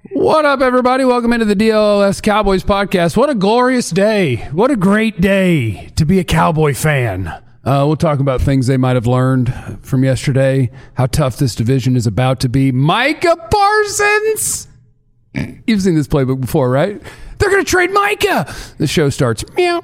What up, everybody? Welcome into the DLS Cowboys podcast. What a glorious day. What a great day to be a Cowboy fan. We'll talk about things they might have learned from yesterday, how tough this division is about to be. Micah Parsons! You've seen this playbook before, right? They're going to trade Micah! The show starts. Meow.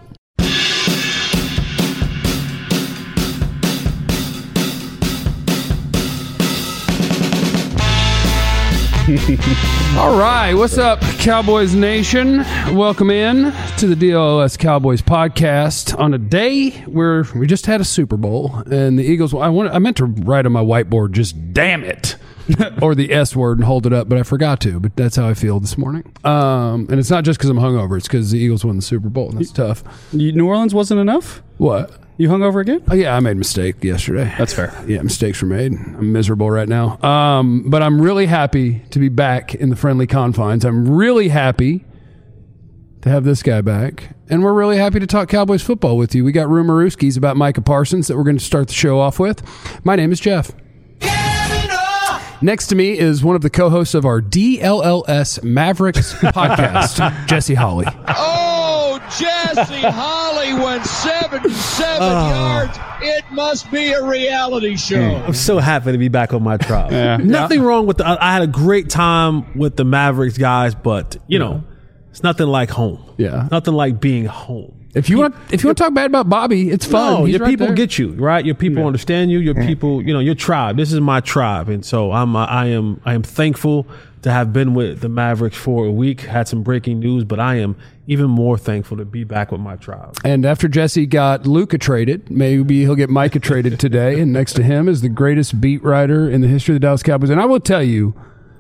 All right, what's up, Cowboys Nation? Welcome in to the DLS Cowboys podcast on a day where we just had a Super Bowl and the Eagles. I meant to write on my whiteboard, just damn it, or the S word and hold it up, but I forgot to. But that's how I feel this morning. And it's not just because I'm hungover; it's because the Eagles won the Super Bowl, and that's tough. New Orleans wasn't enough? What? You hungover again? Oh, yeah, I made a mistake yesterday. That's fair. Yeah, mistakes were made. I'm miserable right now. But I'm really happy to be back in the friendly confines. I'm really happy to have this guy back. And we're really happy to talk Cowboys football with you. We got rumorooskies about Micah Parsons that we're going to start the show off with. My name is Jeff. Next to me is one of the co-hosts of our DLLS Mavericks podcast, Jesse Holley. Jesse Holley went 77 yards. It must be a reality show. I'm so happy to be back on my tribe. Nothing wrong with I had a great time with the Mavericks guys, but you know, it's nothing like home. Yeah, nothing like being home. If you want to talk bad about Bobby, it's fun. No, He's your right people there. get you, right? Your people understand you. Your people, you know, your tribe. This is my tribe, and so I am thankful to have been with the Mavericks for a week. Had some breaking news, but I am even more thankful to be back with my tribe. And after Jesse got Luka traded, maybe he'll get Micah traded today. And next to him is the greatest beat writer in the history of the Dallas Cowboys. And I will tell you,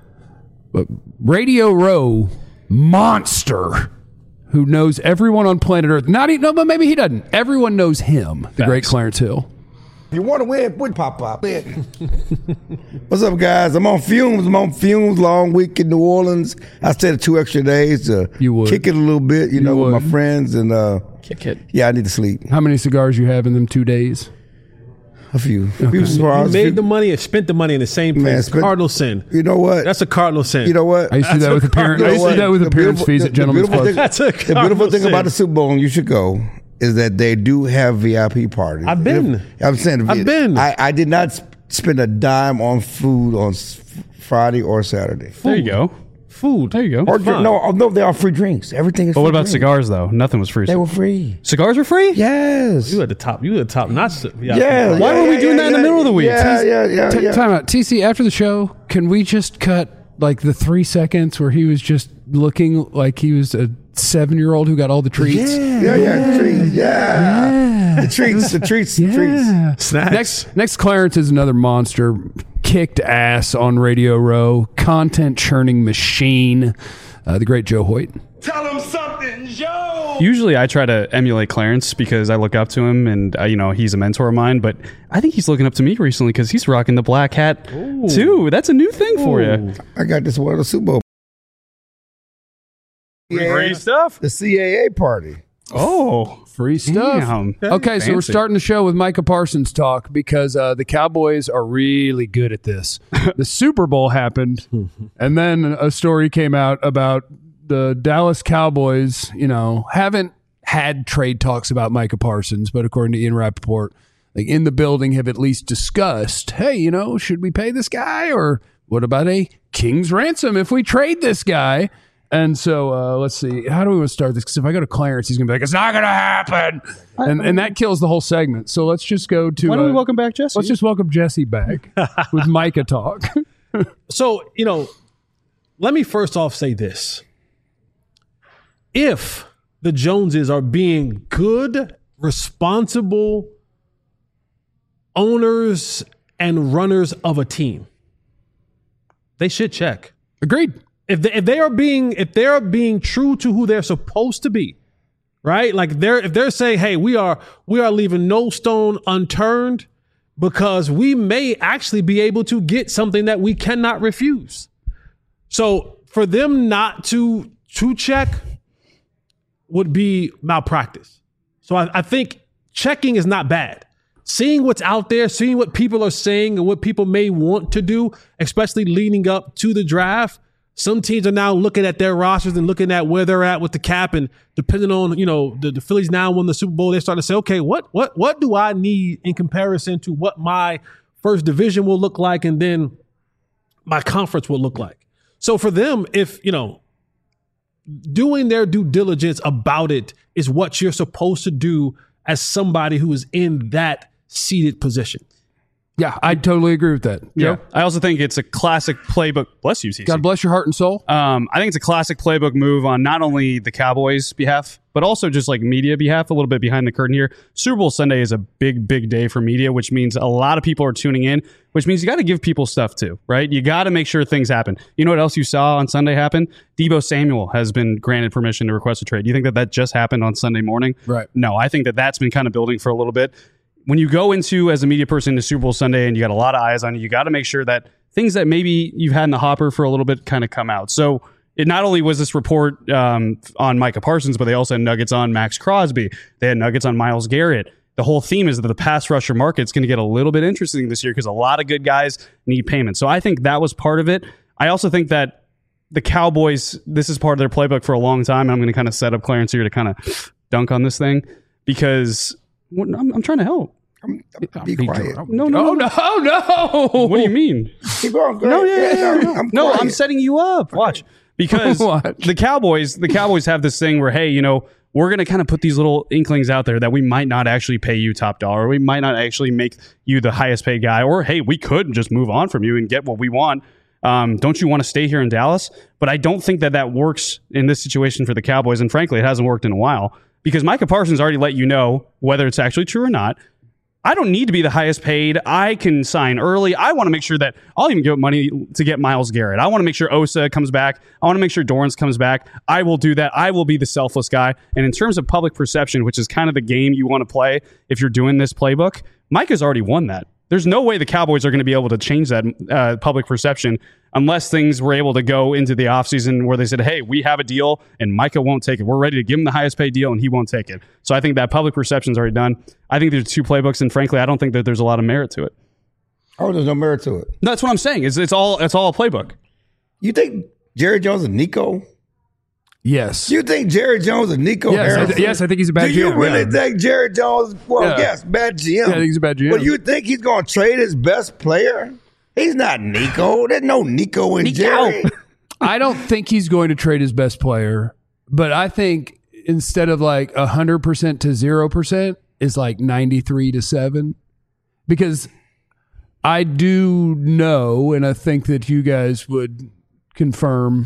Radio Row monster who knows everyone on planet Earth. But maybe he doesn't. Everyone knows him, the great Clarence Hill. If you want to win, put pop. What's up, guys? I'm on fumes. Long week in New Orleans. I stayed 2 extra days to kick it a little bit, with my friends. And kick it. Yeah, I need to sleep. How many cigars you have in them 2 days? A few. Okay. You made the money and spent the money in the same place. Cardinal sin. You know what? That's a cardinal sin. You know what? I used to do that with appearance. I used to do that with appearance fees at Gentleman's Club. The beautiful thing about the Super Bowl, and you should go, is that they do have VIP parties. I've been. I did not spend a dime on food on Friday or Saturday. There you go. Food. There you go. Or no, they are free drinks. Everything is free. But what about drinks. cigars, though? Nothing was free. They were free. Cigars were free? Yes. You had the top notch. Yeah. Why were we doing that in the middle of the week? Yeah. Time out. TC, after the show, can we just cut like the 3 seconds where he was just looking like he was a 7-year-old who got all the treats? Yeah. Treats. Yeah. The treats. Snacks. Next, Clarence is another monster. Kicked ass on Radio Row. Content churning machine. The great Joe Hoyt. Tell him something, Joe. Usually I try to emulate Clarence because I look up to him and, he's a mentor of mine. But I think he's looking up to me recently because he's rocking the black hat, too. That's a new thing for you. I got this one at the Super Bowl. Great stuff. The CAA party. Oh, free stuff. Damn. Okay, so we're starting the show with Micah Parsons talk because the Cowboys are really good at this. The Super Bowl happened, and then a story came out about the Dallas Cowboys, haven't had trade talks about Micah Parsons, but according to Ian Rappaport, in the building have at least discussed, hey, should we pay this guy, or what about a king's ransom if we trade this guy? And so let's see. How do we want to start this? Because if I go to Clarence, he's going to be like, it's not going to happen. And that kills the whole segment. So let's just go to... Why don't we welcome back Jesse? Let's just welcome Jesse back with Micah talk. So, let me first off say this. If the Joneses are being good, responsible owners and runners of a team, they should check. Agreed. If they are being true to who they're supposed to be, right? Like if they're saying, hey, we are leaving no stone unturned because we may actually be able to get something that we cannot refuse. So for them not to check would be malpractice. So I think checking is not bad. Seeing what's out there, seeing what people are saying and what people may want to do, especially leading up to the draft, Some teams are now looking at their rosters and looking at where they're at with the cap, and depending on, the Phillies now won the Super Bowl, they're starting to say, okay, what do I need in comparison to what my first division will look like and then my conference will look like. So for them, if, doing their due diligence about it is what you're supposed to do as somebody who is in that seated position. Yeah, I totally agree with that. Yeah. I also think it's a classic playbook. Bless you, CC. God bless your heart and soul. I think it's a classic playbook move on not only the Cowboys' behalf, but also just like media behalf, a little bit behind the curtain here. Super Bowl Sunday is a big, big day for media, which means a lot of people are tuning in, which means you got to give people stuff too, right? You got to make sure things happen. You know what else you saw on Sunday happen? Deebo Samuel has been granted permission to request a trade. Do you think that just happened on Sunday morning? Right. No, I think that's been kind of building for a little bit. When you go into, as a media person, to Super Bowl Sunday and you got a lot of eyes on you, you got to make sure that things that maybe you've had in the hopper for a little bit kind of come out. So it not only was this report on Micah Parsons, but they also had nuggets on Max Crosby. They had nuggets on Myles Garrett. The whole theme is that the pass rusher market's going to get a little bit interesting this year because a lot of good guys need payment. So I think that was part of it. I also think that the Cowboys, this is part of their playbook for a long time. And I'm going to kind of set up Clarence here to kind of dunk on this thing because I'm trying to help. Be quiet. No. What do you mean? Keep going. No, I'm setting you up. Watch. Because the Cowboys have this thing where, hey, we're going to kind of put these little inklings out there that we might not actually pay you top dollar. We might not actually make you the highest paid guy. Or, hey, we could just move on from you and get what we want. Don't you want to stay here in Dallas? But I don't think that works in this situation for the Cowboys. And frankly, it hasn't worked in a while. Because Micah Parsons already let you know whether it's actually true or not. I don't need to be the highest paid. I can sign early. I want to make sure that I'll even give up money to get Myles Garrett. I want to make sure Osa comes back. I want to make sure Dorrance comes back. I will do that. I will be the selfless guy. And in terms of public perception, which is kind of the game you want to play if you're doing this playbook, Micah's already won that. There's no way the Cowboys are going to be able to change that public perception unless things were able to go into the offseason where they said, hey, we have a deal and Micah won't take it. We're ready to give him the highest paid deal and he won't take it. So I think that public perception's already done. I think there's two playbooks, and frankly, I don't think that there's a lot of merit to it. Oh, there's no merit to it. No, that's what I'm saying. It's all a playbook. You think Jerry Jones and Nico? Yes. You think Jerry Jones and Nico Harrison? Yes, I think he's a bad GM. Do you really think Jerry Jones, yes, bad GM? Yeah, I think he's a bad GM. But you think he's going to trade his best player? He's not Nico. There's no Nico in Jerry. I don't think he's going to trade his best player, but I think instead of like 100% to 0% is like 93-7, because I do know, and I think that you guys would confirm,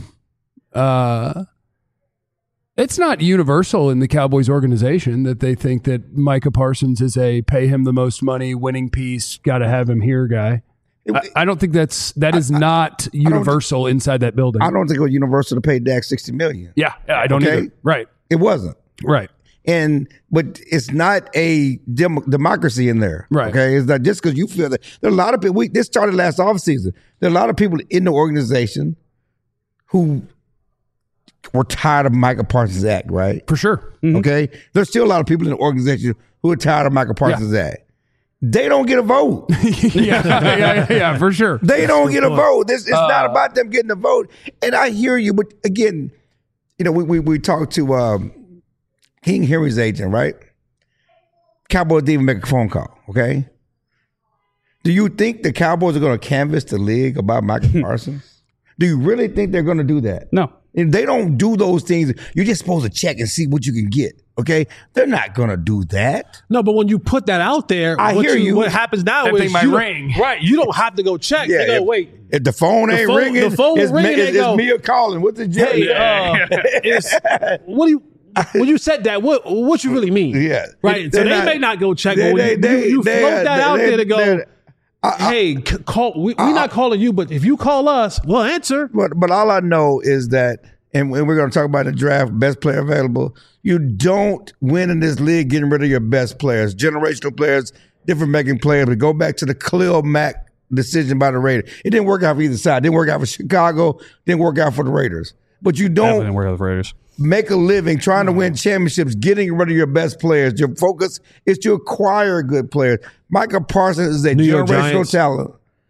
it's not universal in the Cowboys organization that they think that Micah Parsons is a pay him the most money, winning piece, got to have him here guy. I don't think that is not universal inside that building. I don't think it was universal to pay Dak $60 million. Yeah, I don't either. Right. It wasn't. Right. But it's not a democracy in there. Right. Okay. It's not just because you feel that. There are a lot of people. This started last offseason. There are a lot of people in the organization who were tired of Micah Parsons' act, right? For sure. Mm-hmm. Okay. There's still a lot of people in the organization who are tired of Micah Parsons' act. They don't get a vote. yeah, for sure. They don't get a vote. It's not about them getting a vote. And I hear you, but again, we talked to King Henry's agent, right? Cowboys didn't even make a phone call, okay? Do you think the Cowboys are going to canvass the league about Micah Parsons? Do you really think they're going to do that? No. If they don't do those things, you're just supposed to check and see what you can get. Okay, they're not gonna do that. No, but when you put that out there, what happens now is ring. Right, you don't have to go check. Yeah, they go, wait. If the phone ain't ringing, the phone it's ringing. it's Mia calling. What's the what do you? When you said that, what you really mean? Yeah, right. So they may not go check. But when you float that out there to go, hey, call. We're not calling you, but if you call us, we'll answer. But all I know is that, and we're going to talk about the draft, best player available. You don't win in this league getting rid of your best players, generational players, difference-making players. But go back to the Khalil Mack decision by the Raiders. It didn't work out for either side. It didn't work out for Chicago. Didn't work out for the Raiders. But you don't didn't work out for the Raiders. Make a living trying to win championships, getting rid of your best players. Your focus is to acquire good players. Micah Parsons is a generational talent.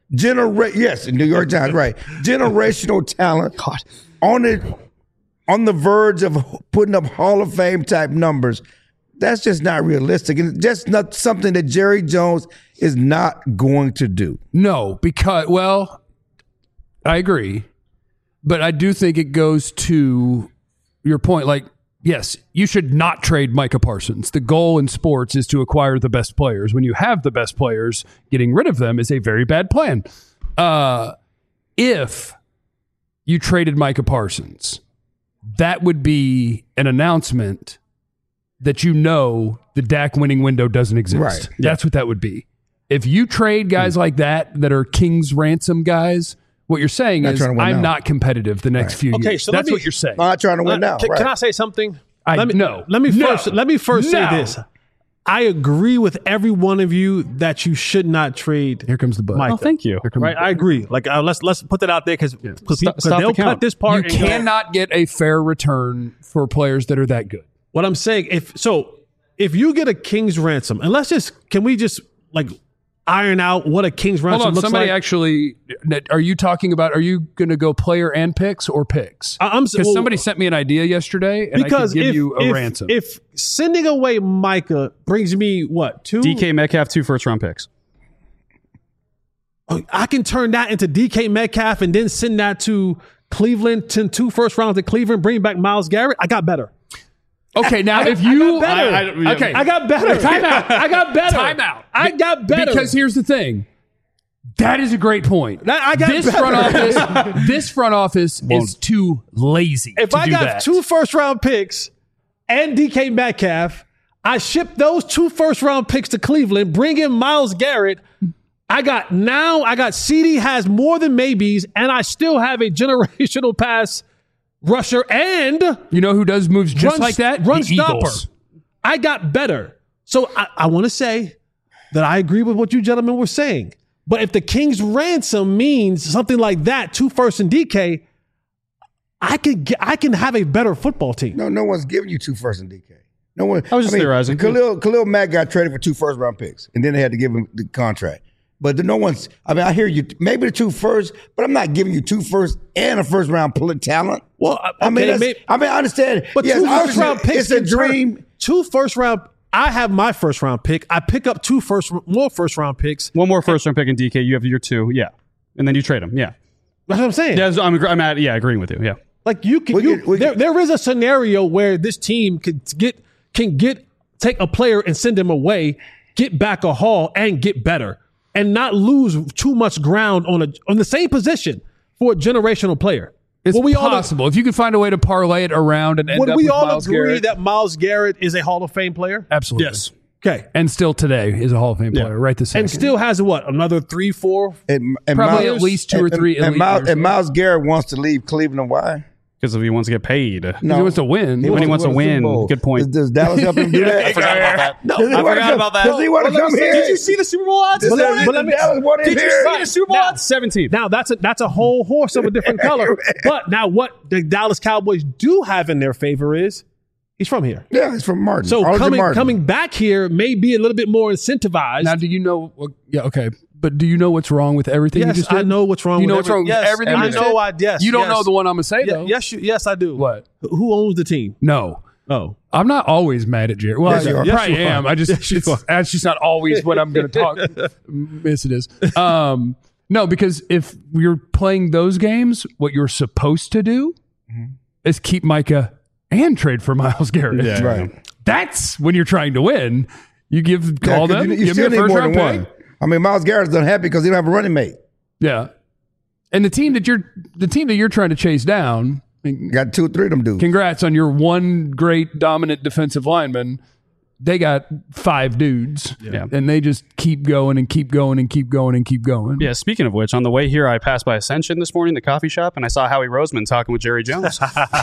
Yes, New York Times, right. Generational talent on the verge of putting up Hall of Fame type numbers. That's just not realistic. And just not something that Jerry Jones is not going to do. No, because, well, I agree. But I do think it goes to your point. Like, yes, you should not trade Micah Parsons. The goal in sports is to acquire the best players. When you have the best players, getting rid of them is a very bad plan. If you traded Micah Parsons, that would be an announcement that the Dak winning window doesn't exist. Right. That's what that would be. If you trade guys like that are King's ransom guys, what you're saying is I'm not competitive the next few years. So that's what you're saying. I'm not trying to win now. Can I say something? Let me first say this. I agree with every one of you that you should not trade. Here comes the button. Oh, thank you. Right, I agree. Like let's put that out there because they'll cut this part. You cannot get a fair return for players that are that good. What I'm saying, if you get a King's ransom, and can we just iron out what a King's ransom looks somebody like? Actually, are you going to go player and picks or picks? Because somebody sent me an idea yesterday, and I could give you a ransom. If sending away Micah brings me what, 2? DK Metcalf, 2 first-round picks. I can turn that into DK Metcalf and then send that to Cleveland, 2 first rounds to Cleveland, bring back Myles Garrett. I got better. Okay, now if you... I got better. Time out. I got better. Time out. I got better. Because here's the thing. That is a great point. I got better. This front office is too lazy If to I do got that. 2 first-round picks and DK Metcalf, I ship those 2 first-round picks to Cleveland, bring in Myles Garrett. I got CD has more than maybes, and I still have a generational pass rusher, and you know who does moves just like that? Run the stopper. Eagles. I got better. So I want to say that I agree with what you gentlemen were saying. But if the King's ransom means something like that, 2 firsts and DK, I can have a better football team. No one's giving you 2 firsts and DK. No one. I was just theorizing. Khalil Mack got traded for 2 first-round picks, and then they had to give him the contract. But no one's. I hear you. Maybe the 2 firsts, but I'm not giving you 2 firsts and a first-round talent. Well, I understand. But yes, 2 first-round picks. It's a dream. 2 first-round. I have my first-round pick. I pick up 2 more first-round picks. One more first-round pick in DK. You have your 2, yeah, and then you trade them, yeah. That's what I'm saying. Yeah, I'm agreeing with you, yeah. Like there is a scenario where this team can take a player and send him away, get back a haul, and get better, and not lose too much ground on the same position for a generational player. It's possible. If you could find a way to parlay it around and end up with we all Myles agree Garrett, that Myles Garrett is a Hall of Fame player? Absolutely. Yes. Okay. And still today is a Hall of Fame player, right this second. And still has another 3, 4? And probably at least 2 or 3 elite years. And Myles Garrett wants to leave Cleveland. Why? Because if he wants to get paid. No. He wants to win. When he wants to win. Good point. Does Dallas help him do that? I forgot about that. No, I forgot about that. Does he want to come here? Did you see the Super Bowl odds? Did you see the Super Bowl odds? 17th. Now, that's a whole horse of a different color. But now what the Dallas Cowboys do have in their favor is he's from here. Yeah, he's from Martin. So coming back here may be a little bit more incentivized. Now, do you know? Yeah, okay. But do you know what's wrong with everything you just did? I know what's wrong. You know what's wrong with everything you just did? Yes. You don't know the one I'm going to say, though. Yes, I do. What? Who owns the team? No. Oh. I'm not always mad at Jerry. Well, Yes, you are. I probably Yes, you am. are. I just, that's just not always what I'm going to talk. Yes, it is. No, because if you're playing those games, what you're supposed to do is keep Micah and trade for Myles Garrett. Yeah. Right. That's when you're trying to win. You call them, You give me still a need first more round than pick. one. I mean, Myles Garrett's unhappy because he don't have a running mate. Yeah. And the team that you're trying to chase down, Got 2 or 3 of them dudes. congrats on your one great dominant defensive lineman. They got 5 dudes. Yeah. And they just keep going and keep going and keep going and keep going. Yeah, speaking of which, on the way here, I passed by Ascension this morning, the coffee shop, and I saw Howie Roseman talking with Jerry Jones.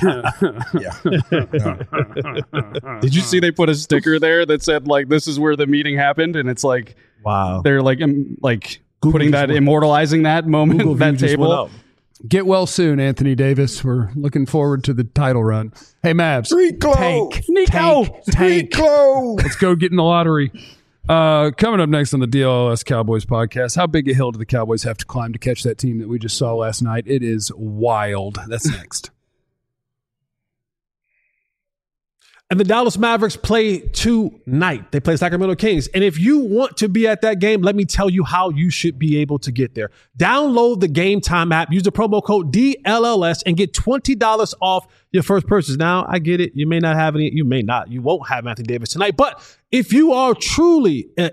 Did you see they put a sticker there that said, like, this is where the meeting happened? And it's like, Wow. they're like putting that, immortalizing that moment, Google that view just went table. up. Get well soon, Anthony Davis. We're looking forward to the title run. Hey, Mavs. Street clothes. Tank. Street clothes. Let's go get in the lottery. Coming up next on the DLS Cowboys podcast, how big a hill do the Cowboys have to climb to catch that team that we just saw last night? It is wild. That's next. And the Dallas Mavericks play tonight. They play Sacramento Kings. And if you want to be at that game, let me tell you how you should be able to get there. Download the Game Time app, use the promo code DLLS, and get $20 off your first purchase. Now, I get it. You may not have any. You may not. You won't have Anthony Davis tonight. But if you are truly an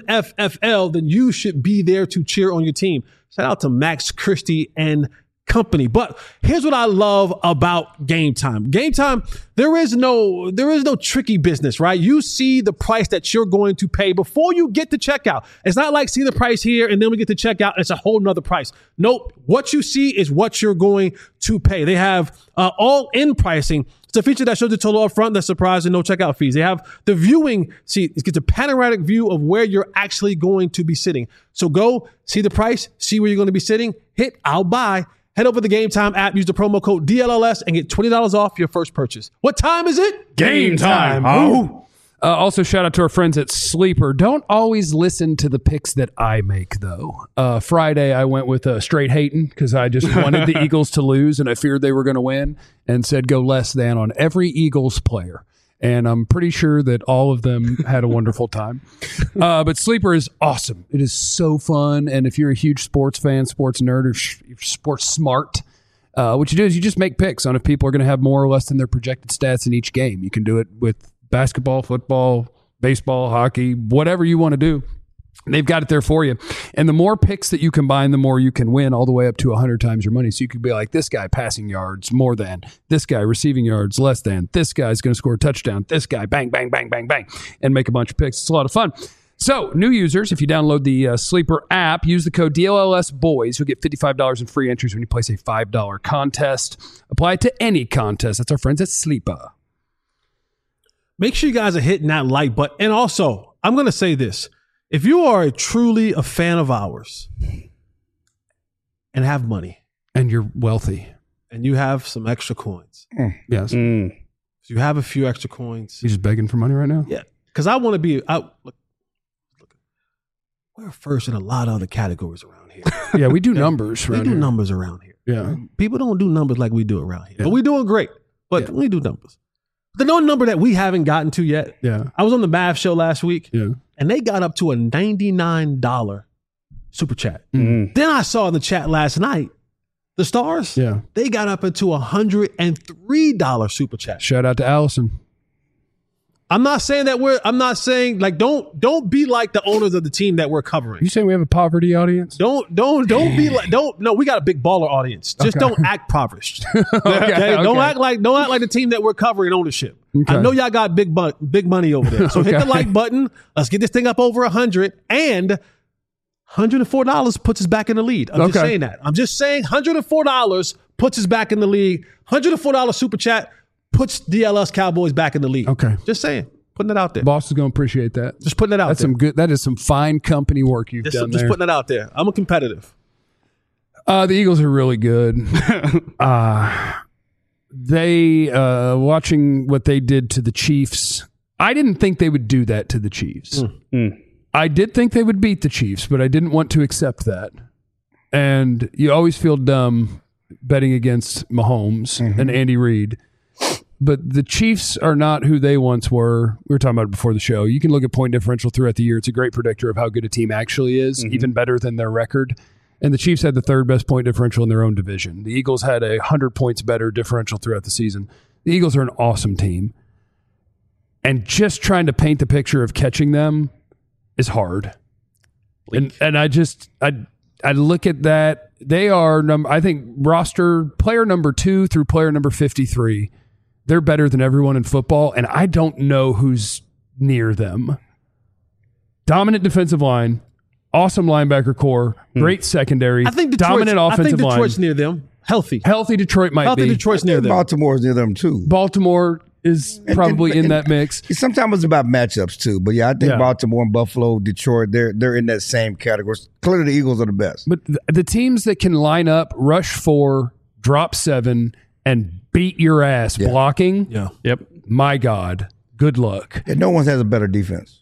MFFL, then you should be there to cheer on your team. Shout out to Max Christie and company. But here's what I love about Game Time. Game Time, there is no tricky business, right? You see the price that you're going to pay before you get to checkout. It's not like see the price here and then we get to checkout. It's a whole nother price. Nope. What you see is what you're going to pay. They have all-in pricing. It's a feature that shows the total up front. That's surprising. No checkout fees. They have the viewing. See, it gets a panoramic view of where you're actually going to be sitting. So go see the price, see where you're going to be sitting, hit I'll buy. Head over to the Game Time app, use the promo code DLLS, and get $20 off your first purchase. What time is it? Game time. Also, shout out to our friends at Sleeper. Don't always listen to the picks that I make, though. Friday, I went with straight hating because I just wanted the Eagles to lose, and I feared they were going to win, and said go less than on every Eagles player. And I'm pretty sure that all of them had a wonderful time. But Sleeper is awesome. It is so fun. And if you're a huge sports fan, sports nerd, or sports smart, what you do is you just make picks on if people are going to have more or less than their projected stats in each game. You can do it with basketball, football, baseball, hockey, whatever you want to do. They've got it there for you. And the more picks that you combine, the more you can win, all the way up to 100 times your money. So you could be like, this guy passing yards more than, this guy receiving yards less than, this guy's going to score a touchdown, this guy bang, bang, bang, bang, bang, and make a bunch of picks. It's a lot of fun. So new users, if you download the Sleeper app, use the code DLLSBOYS. You'll get $55 in free entries when you place a $5 contest. Apply it to any contest. That's our friends at Sleeper. Make sure you guys are hitting that like button. And also, I'm going to say this. If you are truly a fan of ours and have money. And you're wealthy. And you have some extra coins. Yes. So you have a few extra coins. You just begging for money right now? Yeah. Because I want to be look, we're first in a lot of other categories around here. Yeah, we do numbers around here. We do numbers around here. Yeah. People don't do numbers like we do around here. Yeah. But we're doing great. But we do numbers. The one number that we haven't gotten to yet. Yeah. I was on the Mav show last week. Yeah. And they got up to a $99 super chat. Mm-hmm. Then I saw in the chat last night, the Stars, they got up into a $103 super chat. Shout out to Allison. I'm not saying like don't be like the owners of the team that we're covering. You saying we have a poverty audience? Don't be like no, we got a big baller audience. Just don't act impoverished. Okay? Don't act like the team that we're covering ownership. Okay. I know y'all got big money over there. So hit the like button. Let's get this thing up over 100, and $104 puts us back in the lead. I'm just saying that. I'm just saying $104 puts us back in the league. $104 super chat puts DLS Cowboys back in the league. Okay. Just saying. Putting it out there. Boss is going to appreciate that. Just putting it out there. That is some fine company work you've done there. Just putting it out there. I'm a competitive. The Eagles are really good. They, watching what they did to the Chiefs, I didn't think they would do that to the Chiefs. I did think they would beat the Chiefs, but I didn't want to accept that. And you always feel dumb betting against Mahomes and Andy Reid. But the Chiefs are not who they once were. We were talking about it before the show. You can look at point differential throughout the year. It's a great predictor of how good a team actually is, even better than their record. And the Chiefs had the third best point differential in their own division. The Eagles had 100 points better differential throughout the season. The Eagles are an awesome team. And just trying to paint the picture of catching them is hard. And I look at that. They are, I think, roster player number 2 through player number 53. They're better than everyone in football, and I don't know who's near them. Dominant defensive line, awesome linebacker core, great secondary, dominant offensive line. I think Detroit's near them. Healthy Detroit might be. Detroit's near them. Baltimore's near them, too. Baltimore is probably in that mix. Sometimes it's about matchups, too. But, I think Baltimore and Buffalo, Detroit, they're in that same category. Clearly, the Eagles are the best. But the teams that can line up, rush 4, drop 7, and beat your ass blocking. Yeah. Yep. My God. Good luck. And no one has a better defense.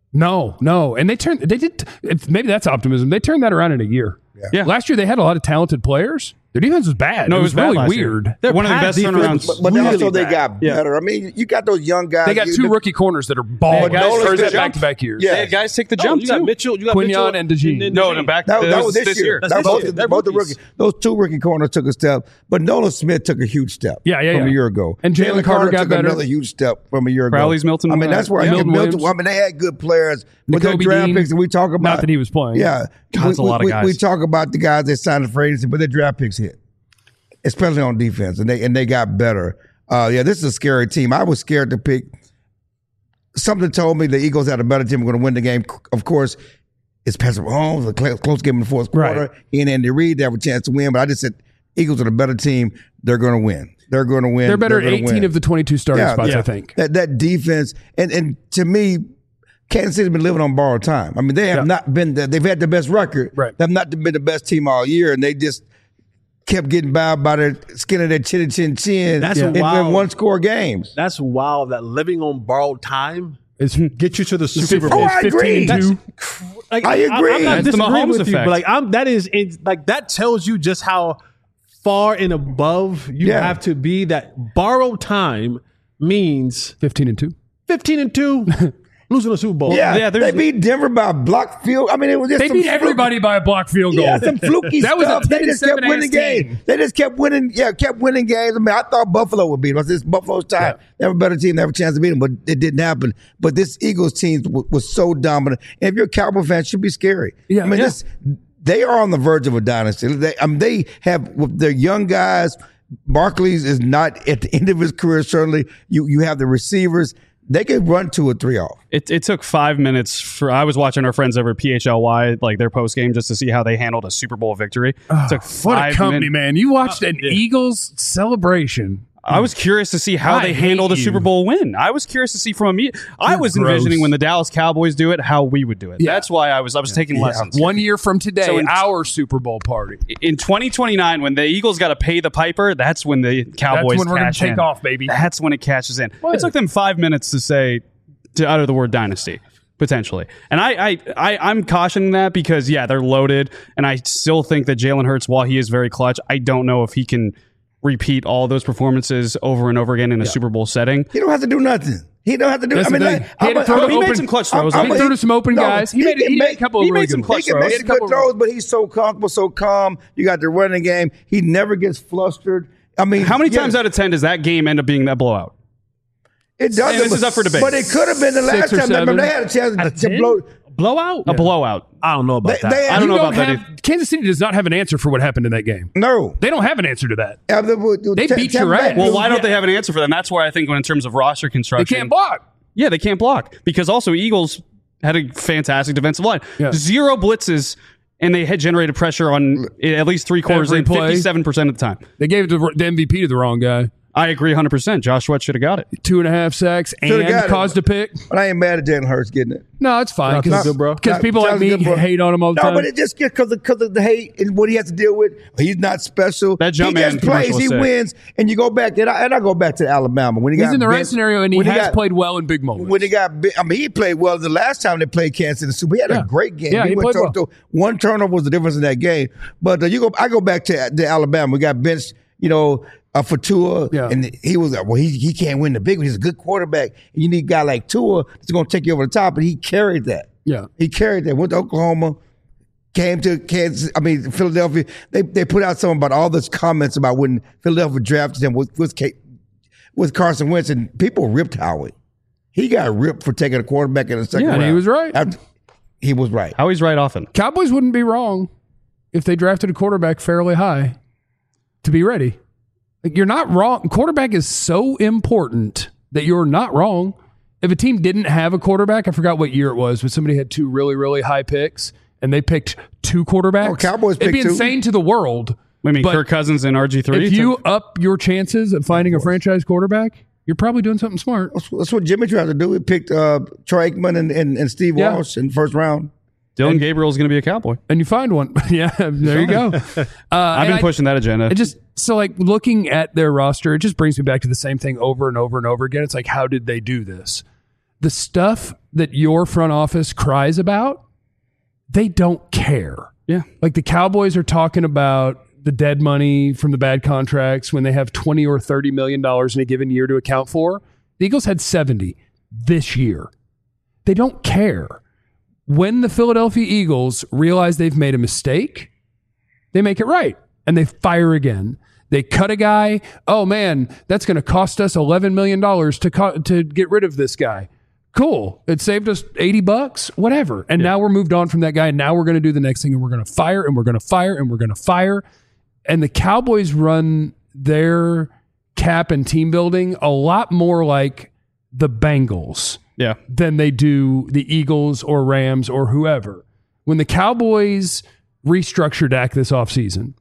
No. And they did, maybe that's optimism. They turned that around in a year. Yeah. Last year they had a lot of talented players. Their defense was bad. No, it was really weird. They're one of the best turnarounds. But really also they got better. I mean, you got those young guys. They got two rookie corners that are balling first back-to-back years. Yeah, guys take the jump. You got Mitchell. You got Quignon and DeJean. No, back. That was this year. That's Both the rookies. Those two rookie corners took a step, but Nolan Smith took a huge step. From a year ago, and Jalen Carter got took better. another huge step from a year ago. Crowley's Milton. I mean, that's where Milton. I mean, they had good players, but their draft picks. And we talk about not that he was playing. Yeah, that's a lot of guys. We talk about the guys that signed for agency, but their draft picks hit. Especially on defense, and they got better. This is a scary team. I was scared to pick. Something told me the Eagles had a better team. We're going to win the game. Of course, it's Patrick Mahomes, a close game in the fourth quarter. Right. He and Andy Reid, they have a chance to win. But I just said Eagles are the better team. They're going to win. They're going to win. They're better at 18 of the 22 starting spots, I think. That defense, and to me, Kansas City's been living on borrowed time. I mean, they have not been. They've had the best record. Right. They've not been the best team all year, and they just kept getting bowed by their skin of their chin. That's and wild. win one-score games. That's wild. That living on borrowed time get you to the Super Oh, Bowl. I agree. I agree. I'm not That's the disagreeing Mahomes with you, effect. but that tells you just how far and above you have to be. That borrowed time means 15-2. 15-2. Losing a Super Bowl. They beat Denver by a block field. I mean, it was just They beat everybody by a block field goal. Yeah, some fluky That was a stuff. They just kept 10-7 winning games. They just kept winning. Yeah, kept winning games. I mean, I thought Buffalo would beat them. This Buffalo's time. They have a better team. They have a chance to beat them, but it didn't happen. But this Eagles team was so dominant. And if you're a Cowboy fan, it should be scary. Yeah, I mean, they are on the verge of a dynasty. They have with their young guys. Barkley's is not at the end of his career. Certainly, you have the receivers. They could run 2 or 3 off. It took 5 minutes I was watching our friends over at PHLY, like their post game, just to see how they handled a Super Bowl victory. It took 5 what a company, man. You watched an Eagles celebration. I was curious to see how they handled a Super Bowl win. I was curious to see from me. I was envisioning when the Dallas Cowboys do it, how we would do it. That's why I was taking lessons. 1 year from today, our Super Bowl party. In 2029, when the Eagles got to pay the piper, that's when the Cowboys That's when we're going to take in. off, baby. That's when it catches in. It took them 5 minutes to utter the word dynasty, potentially. And I'm cautioning that because, they're loaded. And I still think that Jalen Hurts, while he is very clutch, I don't know if he can repeat all those performances over and over again in a Super Bowl setting. He don't have to do nothing. He don't have to do. He made some clutch throws. He threw to some open guys. He made a couple of really good throws. He can make some good throws, but he's so comfortable, so calm. You got the running game. He never gets flustered. I mean, how many times out of 10 does that game end up being that blowout? It doesn't. This is up for debate. But it could have been the last time. Remember, they had a chance to blow. Blowout? A blowout. I don't know about that. I don't know about that. Kansas City does not have an answer for what happened in that game. No. They don't have an answer to that. They beat your ass. Well, why don't they have an answer for that? And that's where I think in terms of roster construction. They can't block. Yeah, they can't block. Because also Eagles had a fantastic defensive line. Yeah. 0 blitzes, and they had generated pressure on at least 3 quarters in 57% of the time. They gave the MVP to the wrong guy. I agree 100%. Josh Sweat should have got it. 2.5 sacks and caused a pick. But I ain't mad at Jalen Hurts getting it. No, it's fine. Because people like me hate on him all the time. No, but it just gets because of the hate and what he has to deal with. He's not special. That jump he just plays. He wins. And you go back, and I go back to Alabama. When he's in the right scenario, and he has played well in big moments. When he got he played well the last time they played Kansas City Super. He had a great game. Yeah, he played well. One turnover was the difference in that game. But I go back to Alabama. We got benched, for Tua, and he was like, well, he can't win the big one. He's a good quarterback. You need a guy like Tua that's going to take you over the top, and he carried that. Yeah. He carried that. Went to Oklahoma, came to Philadelphia. They put out something about all those comments about when Philadelphia drafted him with Carson Wentz, and people ripped Howie. He got ripped for taking a quarterback in the second round. Yeah, he was right. He was right. Howie's right often. Cowboys wouldn't be wrong if they drafted a quarterback fairly high to be ready. Like, you're not wrong. Quarterback is so important that you're not wrong. If a team didn't have a quarterback, I forgot what year it was, but somebody had 2 really, really high picks, and they picked 2 quarterbacks. Oh, Cowboys picked 2. It'd be insane to the world. I mean, Kirk Cousins and RG3. If you up your chances of finding a franchise quarterback, you're probably doing something smart. That's what Jimmy tried to do. He picked Troy Aikman and Steve Walsh in the first round. Dylan Gabriel's going to be a Cowboy. And you find one. Yeah, there you go. I've been pushing that agenda. Looking at their roster, it just brings me back to the same thing over and over and over again. It's like, how did they do this? the stuff that your front office cries about, they don't care. Yeah. Like the Cowboys are talking about the dead money from the bad contracts when they have $20 or $30 million in a given year to account for. The Eagles had 70 this year. They don't care. When the Philadelphia Eagles realize they've made a mistake, they make it right and they fire again. They cut a guy. Oh man, that's going to cost us $11 million to get rid of this guy. Cool. It saved us $80, whatever. And now we're moved on from that guy. And now we're going to do the next thing and we're going to fire and we're going to fire and we're going to fire. And the Cowboys run their cap and team building a lot more like the Bengals than they do the Eagles or Rams or whoever. When the Cowboys restructured Dak this offseason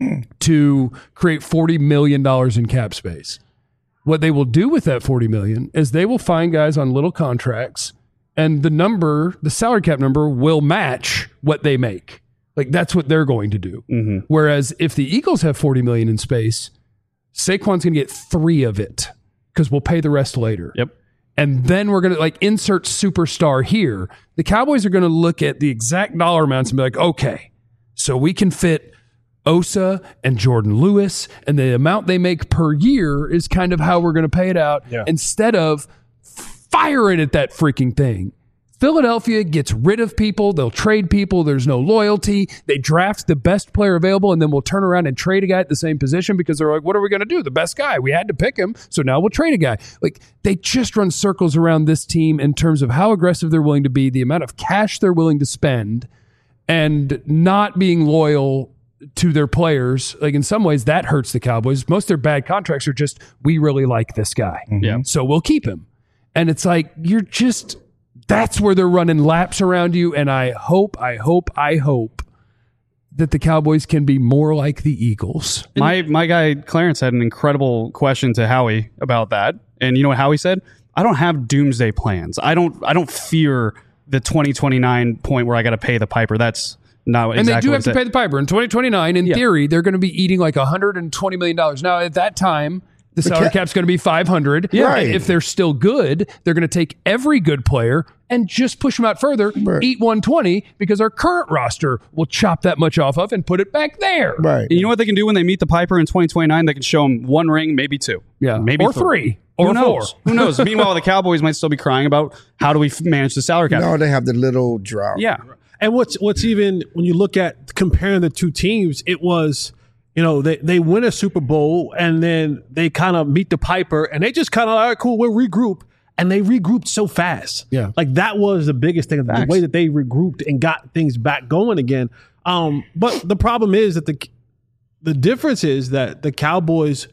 to create $40 million in cap space, what they will do with that $40 million is they will find guys on little contracts and the salary cap number will match what they make. Like that's what they're going to do. Mm-hmm. Whereas if the Eagles have $40 million in space, Saquon's going to get 3 of it because we'll pay the rest later. Yep. And then we're going to insert superstar here. The Cowboys are going to look at the exact dollar amounts and be like, okay, so we can fit Osa and Jordan Lewis, and the amount they make per year is kind of how we're going to pay it out instead of firing at that freaking thing. Philadelphia gets rid of people. They'll trade people. There's no loyalty. They draft the best player available, and then we'll turn around and trade a guy at the same position because they're like, what are we going to do? The best guy. We had to pick him, so now we'll trade a guy. Like, they just run circles around this team in terms of how aggressive they're willing to be, the amount of cash they're willing to spend, and not being loyal to their players. Like, in some ways, that hurts the Cowboys. Most of their bad contracts are just, we really like this guy, so we'll keep him. And it's like, that's where they're running laps around you. And I hope that the Cowboys can be more like the Eagles. My guy Clarence had an incredible question to Howie about that. And you know what Howie said? I don't have doomsday plans. I don't fear the 2029 point where I got to pay the piper. That's not exactly. And they do have to pay the piper. In 2029, in theory, they're going to be eating like $120 million. Now, at that time, the salary cap's going to be $500. Yeah. Right. And if they're still good, they're going to take every good player and just push them out further, eat 120, because our current roster will chop that much off of and put it back there. Right. And you know what they can do when they meet the piper in 2029? They can show them 1 ring, maybe 2. Yeah. Maybe or 3. Or 4. Who knows? Meanwhile, the Cowboys might still be crying about how do we manage the salary cap. No, they have the little drop. Yeah. And what's even, when you look at comparing the two teams, it was, they win a Super Bowl and then they kind of meet the piper and they just kind of, all right, cool, we'll regroup. And they regrouped so fast. Yeah. Like that was the biggest thing, the way that they regrouped and got things back going again. But the problem is that the difference is that the Cowboys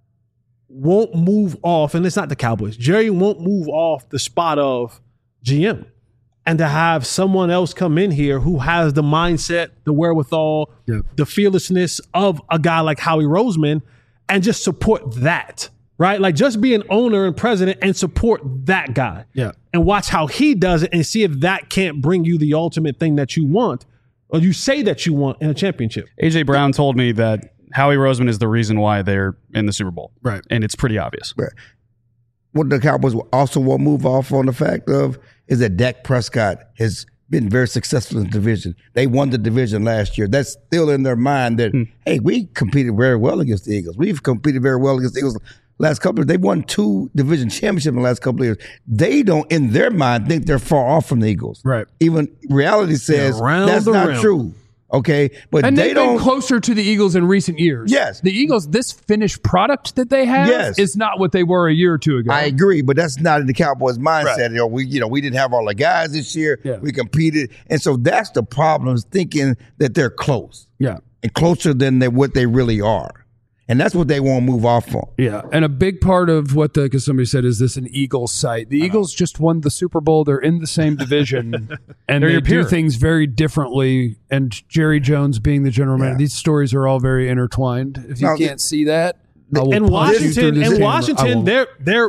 won't move off, and it's not the Cowboys. Jerry won't move off the spot of GM. And to have someone else come in here who has the mindset, the wherewithal, the fearlessness of a guy like Howie Roseman and just support that. Right? Like just be an owner and president and support that guy. Yeah. And watch how he does it and see if that can't bring you the ultimate thing that you want or you say that you want in a championship. AJ Brown told me that Howie Roseman is the reason why they're in the Super Bowl. Right. And it's pretty obvious. Right. What the Cowboys also won't move off on the fact of is that Dak Prescott has been very successful in the division. They won the division last year. That's still in their mind that, hey, we competed very well against the Eagles. We've competed very well against the Eagles. Last couple of, they've won 2 division championships in the last couple of years. They don't, in their mind, think they're far off from the Eagles. Right. Even reality says that's not true. Okay. But and they've been closer to the Eagles in recent years. Yes. The Eagles, this finished product that they have is not what they were a year or 2 ago. I agree, but that's not in the Cowboys' mindset. Right. We didn't have all the guys this year. Yeah. We competed. And so that's the problem, is thinking that they're close. Yeah. And closer than what they really are. And that's what they won't move off on. Yeah. And a big part of what because somebody said, is this an Eagles site? The Eagles just won the Super Bowl. They're in the same division and they do things very differently. And Jerry Jones being the general manager, these stories are all very intertwined. If you can't see that. And Washington, they're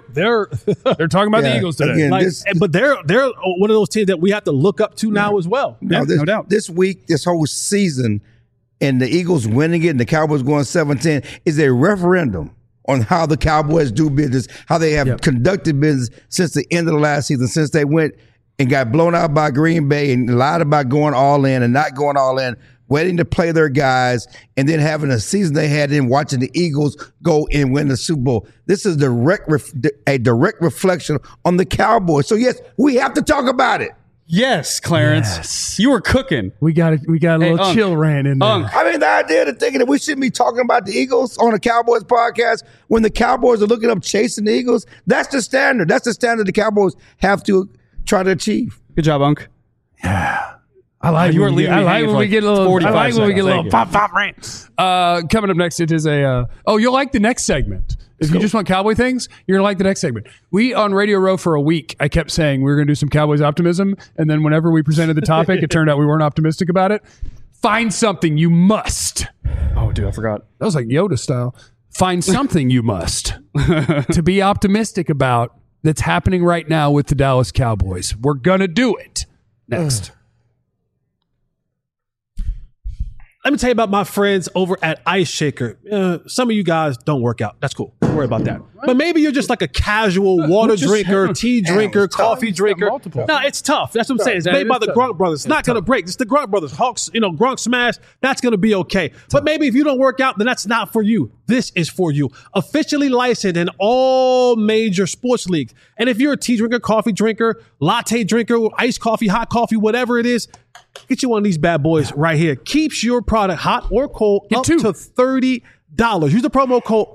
talking about the Eagles today. Again, but they're one of those teams that we have to look up to now as well. No doubt. This week, this whole season, and the Eagles winning it and the Cowboys going 7-10 is a referendum on how the Cowboys do business, how they have conducted business since the end of the last season, since they went and got blown out by Green Bay and lied about going all in and not going all in, waiting to play their guys, and then having a season they had in watching the Eagles go and win the Super Bowl. This is a direct reflection on the Cowboys. So, yes, we have to talk about it. Yes, Clarence. You were cooking. We got a little chill rant in there. I mean, the idea of thinking that we shouldn't be talking about the Eagles on a Cowboys podcast when the Cowboys are looking up chasing the Eagles, that's the standard. That's the standard the Cowboys have to try to achieve. Good job, Unc. Yeah. I like when we get a little pop rant. Coming up next, it is you'll like the next segment. If you just want Cowboy things, you're going to like the next segment. We, on Radio Row for a week, I kept saying we were going to do some Cowboys optimism, and then whenever we presented the topic, it turned out we weren't optimistic about it. Find something you must. Oh, dude, I forgot. That was like Yoda style. Find something you must to be optimistic about that's happening right now with the Dallas Cowboys. We're going to do it next. Let me tell you about my friends over at Ice Shaker. Some of you guys don't work out. That's cool. Don't worry about that. But maybe you're just like a casual water drinker, tea drinker, coffee drinker. No, it's tough. That's what I'm saying. It's made by the Gronk Brothers. It's not going to break. It's the Gronk Brothers. Hawks, Gronk Smash, that's going to be okay. But maybe if you don't work out, then that's not for you. This is for you. Officially licensed in all major sports leagues. And if you're a tea drinker, coffee drinker, latte drinker, iced coffee, hot coffee, whatever it is, get you one of these bad boys right here. Keeps your product hot or cold up to $30. Use the promo code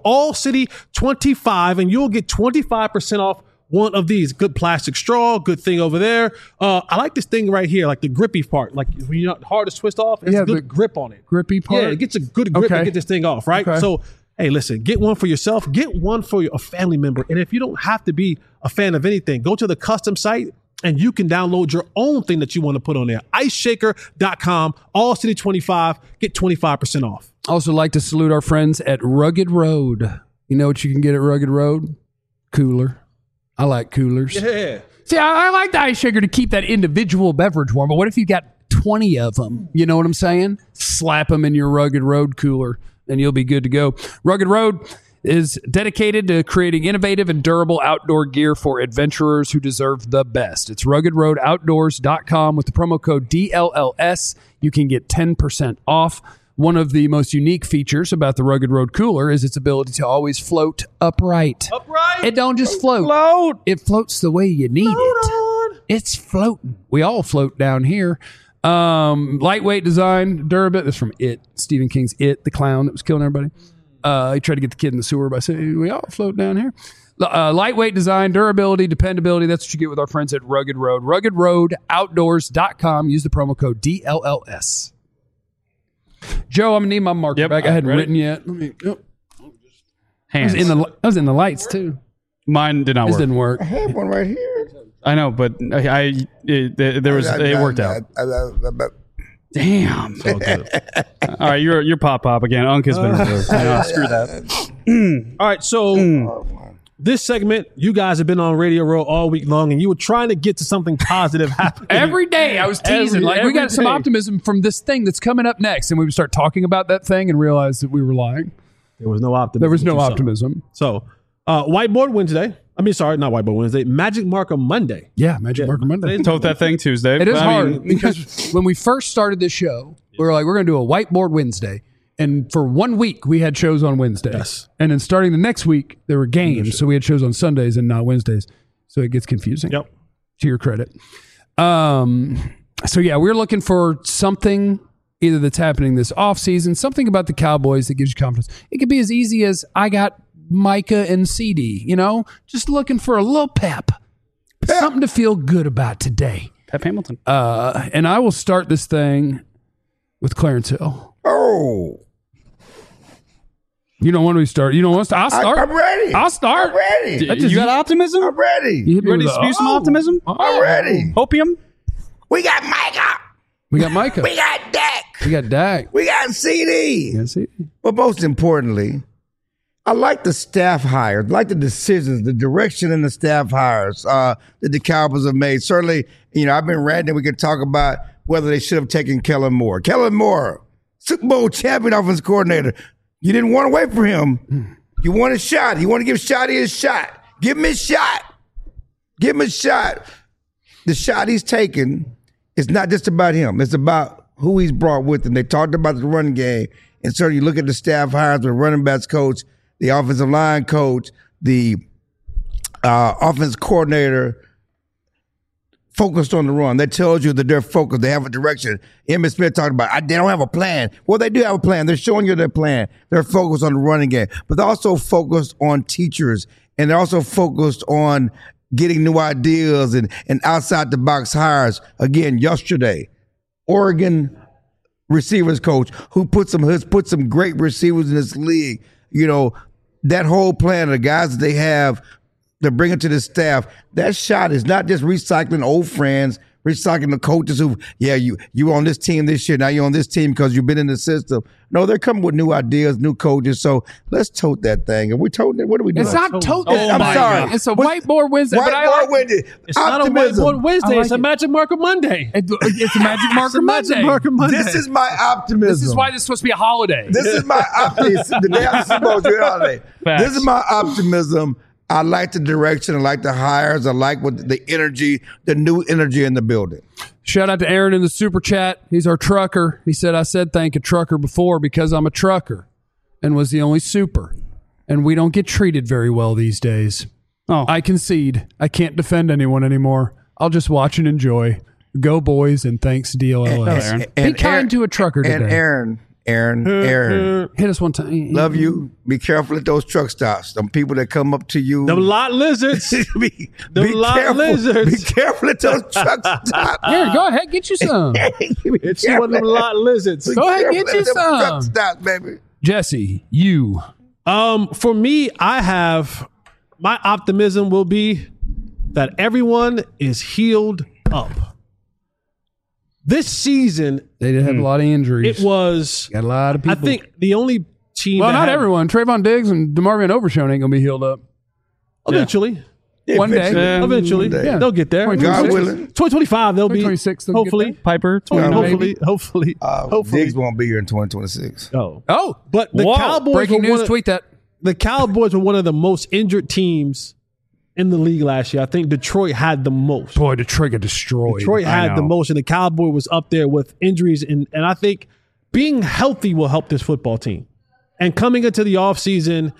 ALLCITY25 and you'll get 25% off one of these. Good plastic straw, good thing over there. I like this thing right here, like the grippy part. Like when you're not hard to twist off, it's a good grip on it. Grippy part? Yeah, it gets a good grip to get this thing off, right? So, hey, listen, get one for yourself. Get one for a family member. And if you don't have to be a fan of anything, go to the custom site and you can download your own thing that you want to put on there. IceShaker.com, AllCity25, get 25% off. Also like to salute our friends at Rugged Road. You know what you can get at Rugged Road? Cooler. I like coolers. Yeah. See, I like the Ice Shaker to keep that individual beverage warm, but what if you got 20 of them? You know what I'm saying? Slap them in your Rugged Road cooler and you'll be good to go. Rugged Road is dedicated to creating innovative and durable outdoor gear for adventurers who deserve the best. It's ruggedroadoutdoors.com. With the promo code DLLS, you can get 10% off. One of the most unique features about the Rugged Road cooler is its ability to always float upright. It don't just float. It floats the way you need it. It's floating. We all float down here. Lightweight design, durability. This is from It. Stephen King's It, the clown that was killing everybody. He tried to get the kid in the sewer by saying, we all float down here. Lightweight design, durability, dependability. That's what you get with our friends at Rugged Road. RuggedRoadOutdoors.com. Use the promo code DLLS. Joe, I'm going to need my marker back. I hadn't written yet. Let me. Hands. I was in the lights, too. Mine did not work. This didn't work. I have one right here. I know, but it worked out. Damn. So good. All right, you're pop again. Unc has been removed. Screw that. All right, so this segment, you guys have been on Radio Row all week long, and you were trying to get to something positive happening. Every day I was teasing, we got some optimism from this thing that's coming up next, and we would start talking about that thing and realize that we were lying. There was no optimism. There was no optimism. So, Whiteboard Wednesday. I mean, sorry, not Whiteboard Wednesday. Magic Marker Monday. Yeah, Magic Marker Monday. Told that thing Tuesday. It is hard because when we first started this show, we were like, we're going to do a Whiteboard Wednesday. And for 1 week, we had shows on Wednesdays. Yes. And then starting the next week, there were games. So we had shows on Sundays and not Wednesdays. So it gets confusing. Yep. To your credit. So, yeah, we're looking for something either that's happening this offseason, something about the Cowboys that gives you confidence. It could be as easy as I got Micah and CD, just looking for a little pep. Something to feel good about today. Pep Hamilton. And I will start this thing with Clarence Hill. Oh. You don't want me to start. You don't want to start. I'll start. I'm ready. I'll start. I'm ready. You got optimism? I'm ready. You ready to spew some optimism? I'm ready. Hopium? We got Micah. We got Micah. We got Dak. We got Dak. We got CD. Yeah, CD. But most importantly, I like the staff hires, like the decisions, the direction in the staff hires that the Cowboys have made. Certainly, I've been ranting. We could talk about whether they should have taken Kellen Moore. Kellen Moore, Super Bowl champion offensive coordinator. You didn't want to wait for him. You want a shot. You want to give Shotty a shot. Give him a shot. Give him a shot. The shot he's taking is not just about him. It's about who he's brought with him. They talked about the run game. And so you look at the staff hires, the running backs coach, the offensive line coach, the offense coordinator, focused on the run. That tells you that they're focused. They have a direction. Emmitt Smith talked about, they don't have a plan. Well, they do have a plan. They're showing you their plan. They're focused on the running game. But they're also focused on teachers. And they're also focused on getting new ideas and outside-the-box hires. Again, yesterday, Oregon receivers coach who has put some great receivers in this league. You know, that whole plan, the guys that they have to bring it to the staff, that shot is not just recycling old friends, recycling the coaches who, you were on this team this year, now you're on this team because you've been in the system. No, they're coming with new ideas, new coaches. So let's tote that thing. And we toting it. What are we doing? It's not toting. I'm sorry. God. It's a whiteboard Wednesday. Whiteboard Wednesday. It's not a whiteboard Wednesday. It's a Magic Marker Monday. It's a Magic Marker Monday. This is my optimism. This is why this is supposed to be a holiday. This is my optimism. The day after Super Bowl is a holiday. Facts. This is my optimism. I like the direction. I like the hires. I like the energy, the new energy in the building. Shout out to Aaron in the super chat. He's our trucker. He said, I said thank a trucker before because I'm a trucker and was the only super. And we don't get treated very well these days. Oh, I concede. I can't defend anyone anymore. I'll just watch and enjoy. Go boys and thanks DLLS. Be kind to a trucker today. And Aaron, hit us one time. Love you. Be careful at those truck stops. Them people that come up to you. Them lot lizards. Be careful at those truck stops. Aaron, go ahead, get you some. It's one of them lot lizards. Go ahead, get you some. Truck stops, baby. Jesse, you. For me, I have my optimism will be that everyone is healed up. This season, they did have a lot of injuries. It was got a lot of people. I think the only team. Well, not everyone. Trayvon Diggs and DeMarvion Overshown ain't gonna be healed up eventually. Yeah. One day. Eventually, Yeah. they'll get there. God willing. 2025, they'll be 2026. hopefully. Piper. Hopefully. Diggs won't be here in 2026. Oh, but the Cowboys. breaking news. Tweet that. The Cowboys were one of the most injured teams in the league last year. I think Detroit had the most. Boy, Detroit got destroyed. Detroit had the most, and the Cowboy was up there with injuries. And I think being healthy will help this football team. And coming into the offseason,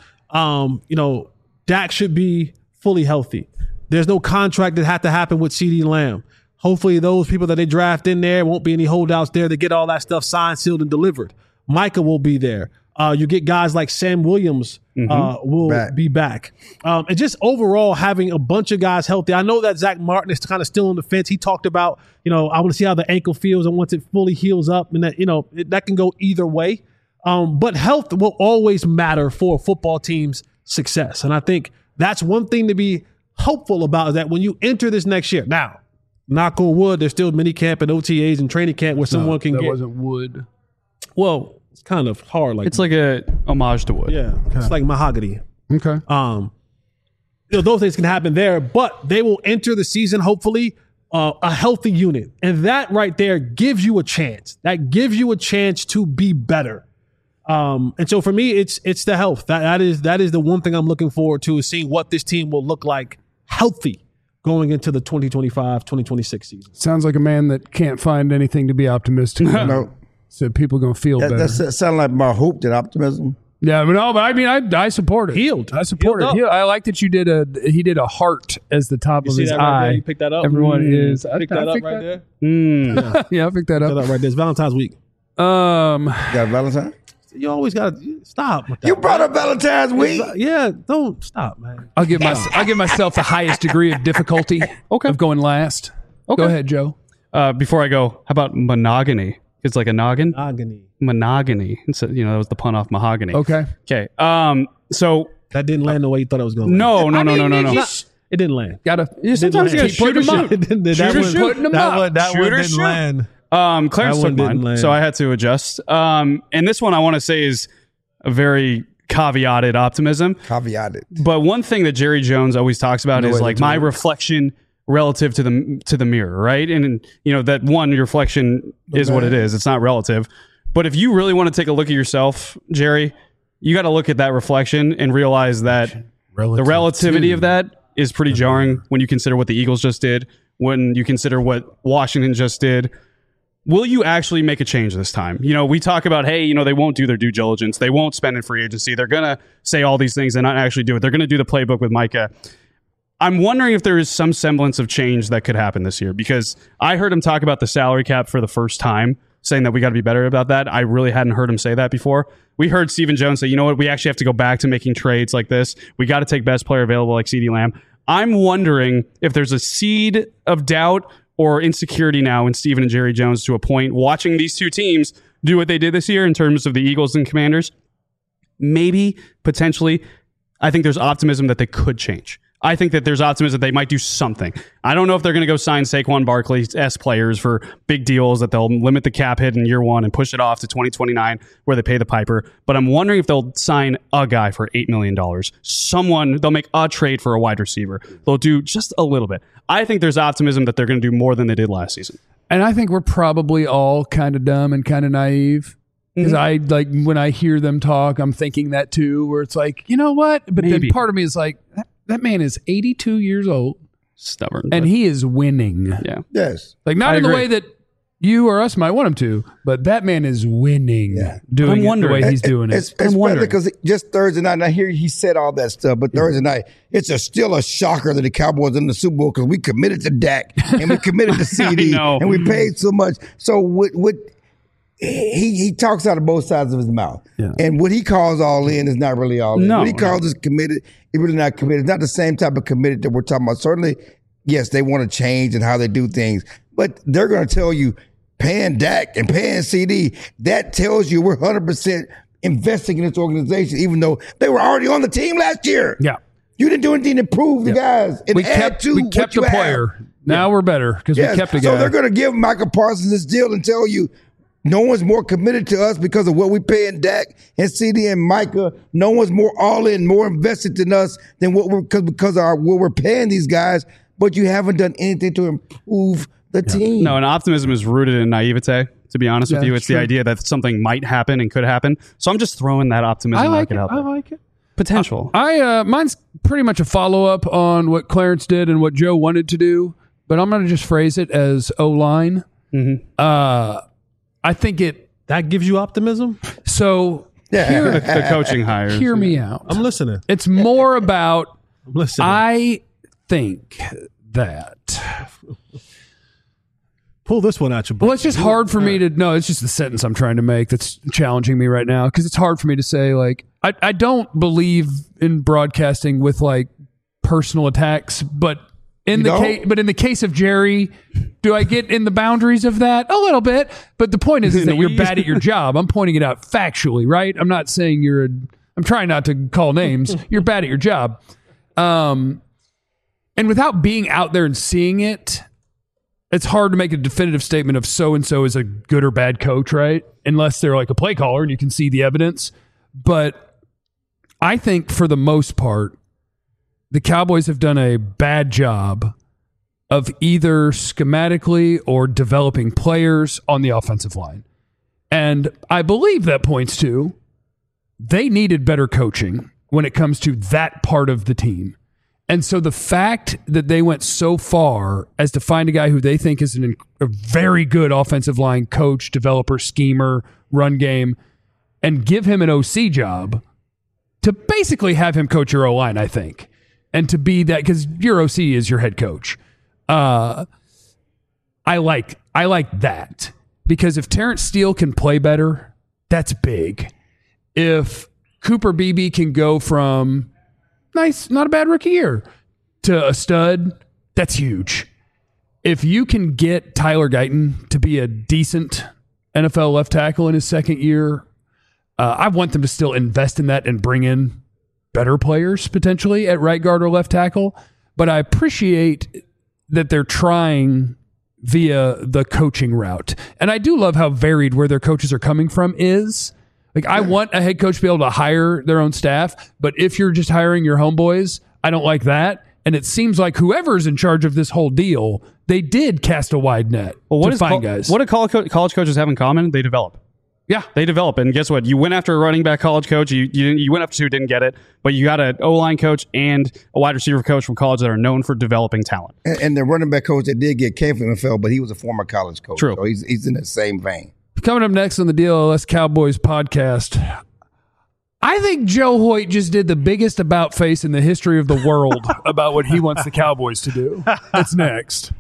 Dak should be fully healthy. There's no contract that had to happen with CeeDee Lamb. Hopefully those people that they draft in there won't be any holdouts there to get all that stuff signed, sealed, and delivered. Micah will be there. You get guys like Sam Williams will be back. And just overall having a bunch of guys healthy. I know that Zach Martin is kind of still on the fence. He talked about, I want to see how the ankle feels and once it fully heals up and that, that can go either way. But health will always matter for a football team's success. And I think that's one thing to be hopeful about is that when you enter this next year, now, knock on wood, there's still mini camp and OTAs and training camp where someone can get. That wasn't wood. Well, it's kind of hard. Like it's like a homage to wood. Yeah, okay. It's like mahogany. Okay. Those things can happen there, but they will enter the season hopefully a healthy unit, and that right there gives you a chance. That gives you a chance to be better. And so for me, it's the health. That is the one thing I'm looking forward to is seeing what this team will look like healthy going into the 2025-2026 season. Sounds like a man that can't find anything to be optimistic about. No. So people are going to feel better. That sounds like more hope than optimism. Yeah, but I mean, I support it. Healed. I support it. I like that you did he did a heart as the top of his that eye. Right there? You picked that up. Everyone is. I picked that up right there. Yeah, I picked that up. Right there. It's Valentine's week. You got Valentine? You always got to stop with that. You brought up Valentine's week. Yeah, don't stop, man. I'll give myself the highest degree of difficulty of going last. Okay. Go ahead, Joe. Before I go, how about monogamy? It's like a noggin. Monogamy. So, that was the pun off mahogany. Okay. So that didn't land the way you thought it was going to land. No. It didn't land. Sometimes you shoot them up. That one didn't land. Clarence took mine, so I had to adjust. And this one I want to say is a very caveated optimism. But one thing that Jerry Jones always talks about is like my reflection relative to the mirror, right? And that one reflection is what it is. It's not relative. But if you really want to take a look at yourself, Jerry, you got to look at that reflection and realize that the relativity of that is pretty jarring when you consider what the Eagles just did, when you consider what Washington just did. Will you actually make a change this time? We talk about, hey, they won't do their due diligence. They won't spend in free agency. They're going to say all these things and not actually do it. They're going to do the playbook with Micah. I'm wondering if there is some semblance of change that could happen this year, because I heard him talk about the salary cap for the first time, saying that we got to be better about that. I really hadn't heard him say that before. We heard Stephen Jones say, you know what, we actually have to go back to making trades like this. We got to take best player available like CeeDee Lamb. I'm wondering if there's a seed of doubt or insecurity now in Stephen and Jerry Jones to a point, watching these two teams do what they did this year in terms of the Eagles and Commanders. Maybe, potentially, I think there's optimism that they could change. I think that there's optimism that they might do something. I don't know if they're going to go sign Saquon Barkley-esque players for big deals that they'll limit the cap hit in year one and push it off to 2029 where they pay the piper. But I'm wondering if they'll sign a guy for $8 million. They'll make a trade for a wide receiver. They'll do just a little bit. I think there's optimism that they're going to do more than they did last season. And I think we're probably all kind of dumb and kind of naive. Because when I hear them talk, I'm thinking that too, where it's like, you know what? But then part of me is like, that man is 82 years old. Stubborn. And he is winning. Yeah. Yes. Like, not in the way that you or us might want him to, but that man is winning doing it the way he's doing it. It's because just Thursday night, and I hear he said all that stuff, but Thursday night, it's still a shocker that the Cowboys in the Super Bowl because we committed to Dak and we committed to CD and we paid so much. So he talks out of both sides of his mouth. Yeah. And what he calls all in is not really all in. What he calls is committed, it's really not committed. It's not the same type of committed that we're talking about. Certainly, yes, they want to change and how they do things, but they're going to tell you paying Dak and paying CD, that tells you we're 100% investing in this organization, even though they were already on the team last year. Yeah. You didn't do anything to improve the guys. And we kept the player. Now we're better because we kept the guy. So they're going to give Micah Parsons this deal and tell you, no one's more committed to us because of what we pay in Dak and CD and Micah. No one's more all in, more invested than us than what we're paying these guys. But you haven't done anything to improve the team. No, and optimism is rooted in naivete. To be honest with you, it's the idea that something might happen and could happen. So I'm just throwing that optimism out there. I like it. Potential. Mine's pretty much a follow up on what Clarence did and what Joe wanted to do, but I'm going to just phrase it as O-line. Mm-hmm. I think that gives you optimism. So the coaching hires. Hear me out. I'm listening. It's more about. I'm listening. I think that. Pull this one out your book. Well, it's just hard for me to. No, it's just the sentence I'm trying to make that's challenging me right now because it's hard for me to say. Like, I don't believe in broadcasting with like personal attacks, but. In the case of Jerry, do I get in the boundaries of that? A little bit. But the point is that you're bad at your job. I'm pointing it out factually, right? I'm not saying I'm trying not to call names. You're bad at your job. And without being out there and seeing it, it's hard to make a definitive statement of so-and-so is a good or bad coach, right? Unless they're like a play caller and you can see the evidence. But I think for the most part, the Cowboys have done a bad job of either schematically or developing players on the offensive line. And I believe that points to they needed better coaching when it comes to that part of the team. And so the fact that they went so far as to find a guy who they think is a very good offensive line coach, developer, schemer, run game, and give him an OC job to basically have him coach your O-line, I think. And to be that, because your OC is your head coach. I like that. Because if Terrence Steele can play better, that's big. If Cooper Beebe can go from nice, not a bad rookie year, to a stud, that's huge. If you can get Tyler Guyton to be a decent NFL left tackle in his second year, I want them to still invest in that and bring in better players potentially at right guard or left tackle. But I appreciate that they're trying via the coaching route. And I do love how varied where their coaches are coming from is. Like, I want a head coach to be able to hire their own staff, but if you're just hiring your homeboys, I don't like that. And it seems like whoever's in charge of this whole deal, they did cast a wide net to find guys. What do college coaches have in common? They develop. Yeah. They develop. And guess what? You went after a running back college coach. You went after 2, didn't get it. But you got an O-line coach and a wide receiver coach from college that are known for developing talent. And the running back coach that did get came from NFL, but he was a former college coach. True. So he's in the same vein. Coming up next on the DLS Cowboys podcast, I think Joe Hoyt just did the biggest about face in the history of the world about what he wants the Cowboys to do. That's next.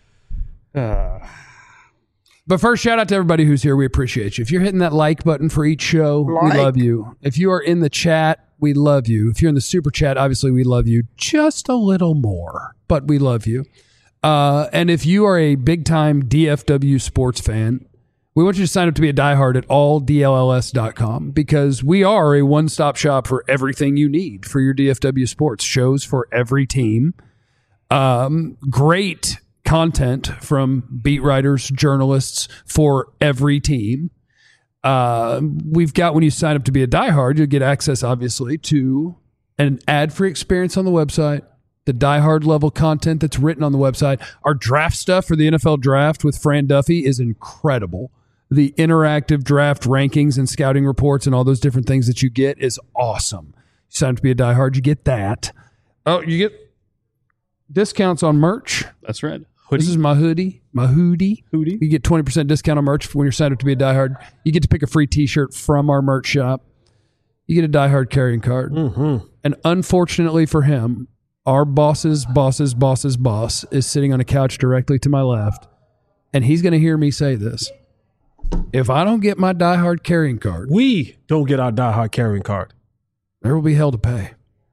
But first, shout out to everybody who's here. We appreciate you. If you're hitting that like button for each show, we love you. If you are in the chat, we love you. If you're in the super chat, obviously we love you just a little more, but we love you. And if you are a big-time DFW sports fan, we want you to sign up to be a diehard at alldlls.com because we are a one-stop shop for everything you need for your DFW sports. Shows for every team. Great content from beat writers, journalists for every team. We've got, when you sign up to be a diehard, you'll get access, obviously, to an ad-free experience on the website, the diehard level content that's written on the website. Our draft stuff for the NFL draft with Fran Duffy is incredible. The interactive draft rankings and scouting reports and all those different things that you get is awesome. You sign up to be a diehard, you get that. Oh, you get discounts on merch. That's right. Hoodie. This is my hoodie. You get 20% discount on merch when you're signed up to be a diehard. You get to pick a free t-shirt from our merch shop. You get a diehard carrying card. Mm-hmm. And unfortunately for him, our boss's boss is sitting on a couch directly to my left. And he's going to hear me say this. If I don't get my diehard carrying card. We don't get our diehard carrying card. There will be hell to pay.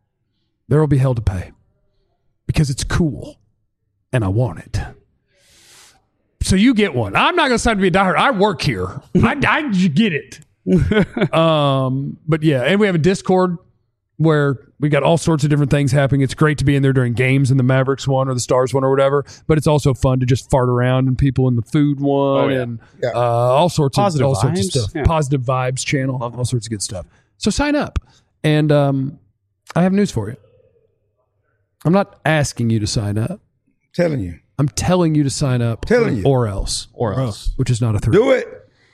Because it's cool. And I want it. So you get one. I'm not going to sign to be a diehard. I work here. I get it. But yeah, and we have a Discord where we got all sorts of different things happening. It's great to be in there during games in the Mavericks one or the Stars one or whatever, but it's also fun to just fart around and people in the food one and all sorts of stuff. Yeah. Positive Vibes channel, all sorts of good stuff. So sign up. And I have news for you. I'm not asking you to sign up. I'm telling you to sign up. Or else. Which is not a 3. Do it.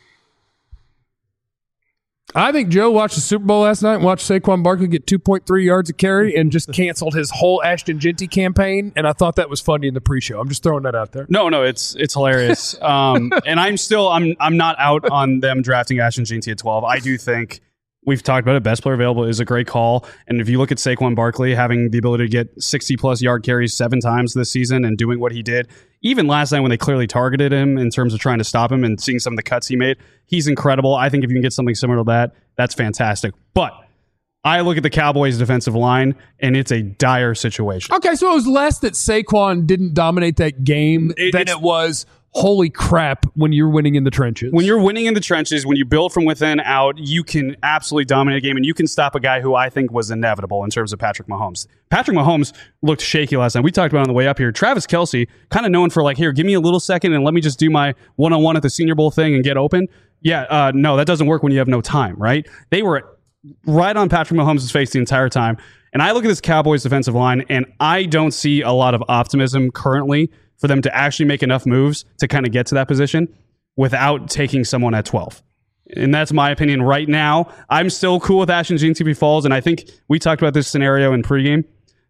I think Joe watched the Super Bowl last night and watched Saquon Barkley get 2.3 yards a carry and just canceled his whole Ashton Jeanty campaign. And I thought that was funny in the pre-show. I'm just throwing that out there. No, it's hilarious. And I'm not out on them drafting Ashton Jeanty at 12. I do think we've talked about it. Best player available is a great call. And if you look at Saquon Barkley having the ability to get 60-plus yard carries 7 times this season and doing what he did, even last night when they clearly targeted him in terms of trying to stop him and seeing some of the cuts he made, he's incredible. I think if you can get something similar to that, that's fantastic. But I look at the Cowboys' defensive line, and it's a dire situation. Okay, so it was less that Saquon didn't dominate that game than it was, holy crap, when you're winning in the trenches. When you're winning in the trenches, when you build from within out, you can absolutely dominate a game, and you can stop a guy who I think was inevitable in terms of Patrick Mahomes. Patrick Mahomes looked shaky last night. We talked about it on the way up here. Travis Kelce, kind of known for like, here, give me a little second and let me just do my one-on-one at the Senior Bowl thing and get open. Yeah, no, that doesn't work when you have no time, right? They were right on Patrick Mahomes' face the entire time. And I look at this Cowboys defensive line, and I don't see a lot of optimism currently for them to actually make enough moves to kind of get to that position without taking someone at 12. And that's my opinion right now. I'm still cool with Ashton Jeanty if he falls, and I think we talked about this scenario in pregame.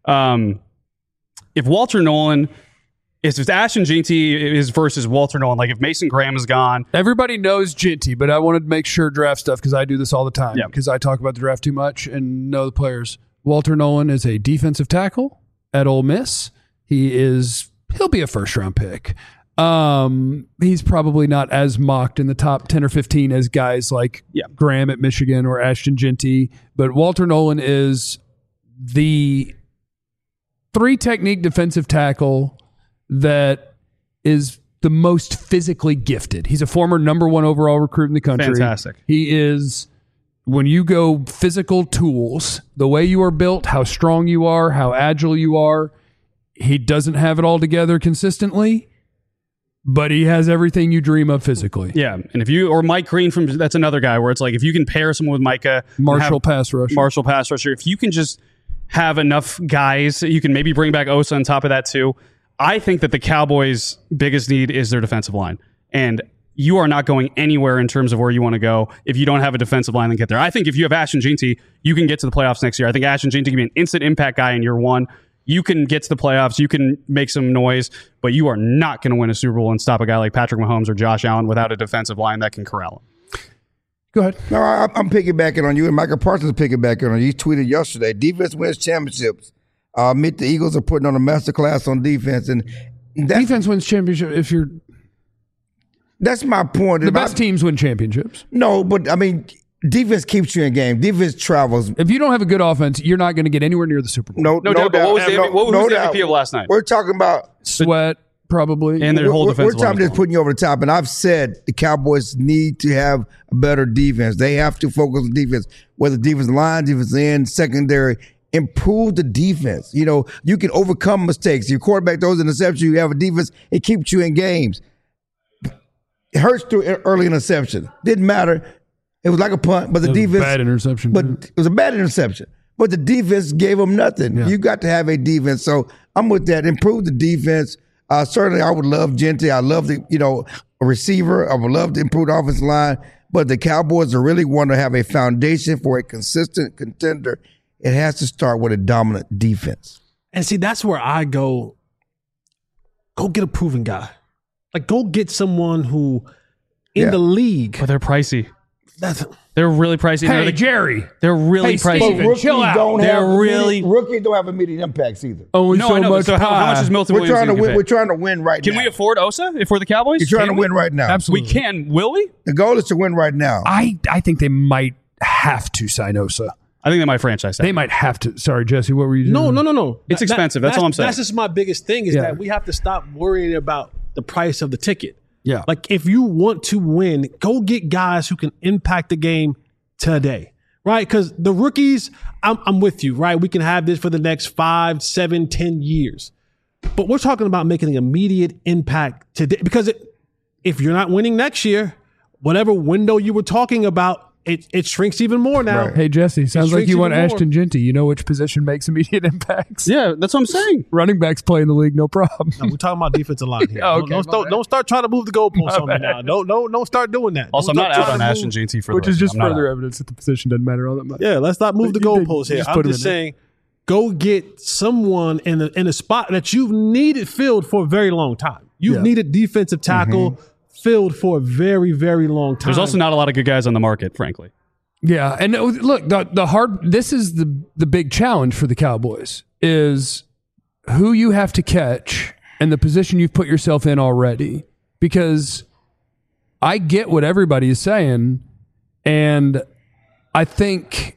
If Walter Nolan, if Ashton Jeanty is versus Walter Nolan, like if Mason Graham is gone. Everybody knows Jeanty, but I wanted to make sure draft stuff because I do this all the time because I talk about the draft too much and know the players. Walter Nolan is a defensive tackle at Ole Miss. He'll be a first-round pick. He's probably not as mocked in the top 10 or 15 as guys like Graham at Michigan or Ashton Jeanty, but Walter Nolan is the 3-technique defensive tackle that is the most physically gifted. He's a former number 1 overall recruit in the country. Fantastic. He is, when you go physical tools, the way you are built, how strong you are, how agile you are, he doesn't have it all together consistently, but he has everything you dream of physically. Yeah, and if you, or Mike Green, that's another guy where it's like, if you can pair someone with Micah. Marshall pass rusher. If you can just have enough guys, you can maybe bring back Osa on top of that too. I think that the Cowboys' biggest need is their defensive line. And you are not going anywhere in terms of where you want to go if you don't have a defensive line that get there. I think if you have Ashton Jeanty, you can get to the playoffs next year. I think Ashton Jeanty can be an instant impact guy in year one. You can get to the playoffs. You can make some noise, but you are not going to win a Super Bowl and stop a guy like Patrick Mahomes or Josh Allen without a defensive line that can corral him. Go ahead. No, I'm piggybacking on you, and Michael Parsons piggybacking on you. He tweeted yesterday, defense wins championships. The Eagles are putting on a masterclass on defense, and defense wins championship if you're... That's my point. The best teams win championships. No, but I mean, defense keeps you in game. Defense travels. If you don't have a good offense, you're not going to get anywhere near the Super Bowl. No doubt. What was the MVP of last night? We're talking about Sweat, probably. And their whole defense. We're talking just putting you over the top. And I've said the Cowboys need to have a better defense. They have to focus on defense, whether defense line, defense end, secondary. Improve the defense. You know, you can overcome mistakes. Your quarterback throws an interception, you have a defense, it keeps you in games. It hurts through early interception. Didn't matter. It was like a punt, but the defense. Bad interception. But it was a bad interception. But the defense gave them nothing. Yeah. You got to have a defense. So I'm with that. Improve the defense. Certainly, I would love Jeanty. I love a receiver. I would love to improve the offensive line. But the Cowboys really want to have a foundation for a consistent contender. It has to start with a dominant defense. And see, that's where I go get a proven guy. Like, go get someone who in the league. But they're pricey. They're really pricey. Hey, Jerry. They're really pricey. Steven, chill out. Rookies don't have immediate impacts either. Oh, no, I know. So how much is Milton Williams? We're trying to win right now. Can we afford Osa if we're the Cowboys? You're trying to win right now. Absolutely. We can. Will we? The goal is to win right now. I think they might have to sign Osa. I think they might franchise that. They might have to. Sorry, Jesse, what were you doing? No. It's expensive. That's all I'm saying. That's just my biggest thing is that we have to stop worrying about the price of the ticket. Yeah. Like, if you want to win, go get guys who can impact the game today, right? Because the rookies, I'm with you, right? We can have this for the next 5, 7, 10 years. But we're talking about making an immediate impact today. Because if you're not winning next year, whatever window you were talking about, it shrinks even more now. Right. Hey, Jesse, sounds like you want Ashton Jeanty. You know which position makes immediate impacts? Yeah, that's what I'm saying. Running backs play in the league, no problem. No, we're talking about defensive line here. Okay, don't start trying to move the goalposts on me now. Don't start doing that. Also, I'm not out on Ashton Jeanty for which is just further evidence that the position doesn't matter all that much. Yeah, let's not move the goalposts here. I'm just saying, go get someone in a spot that you've needed filled for a very long time. You've needed defensive tackle filled for a very, very long time. There's also not a lot of good guys on the market, frankly. Yeah, and look, this is the big challenge for the Cowboys is who you have to catch and the position you've put yourself in already. Because I get what everybody is saying, and I think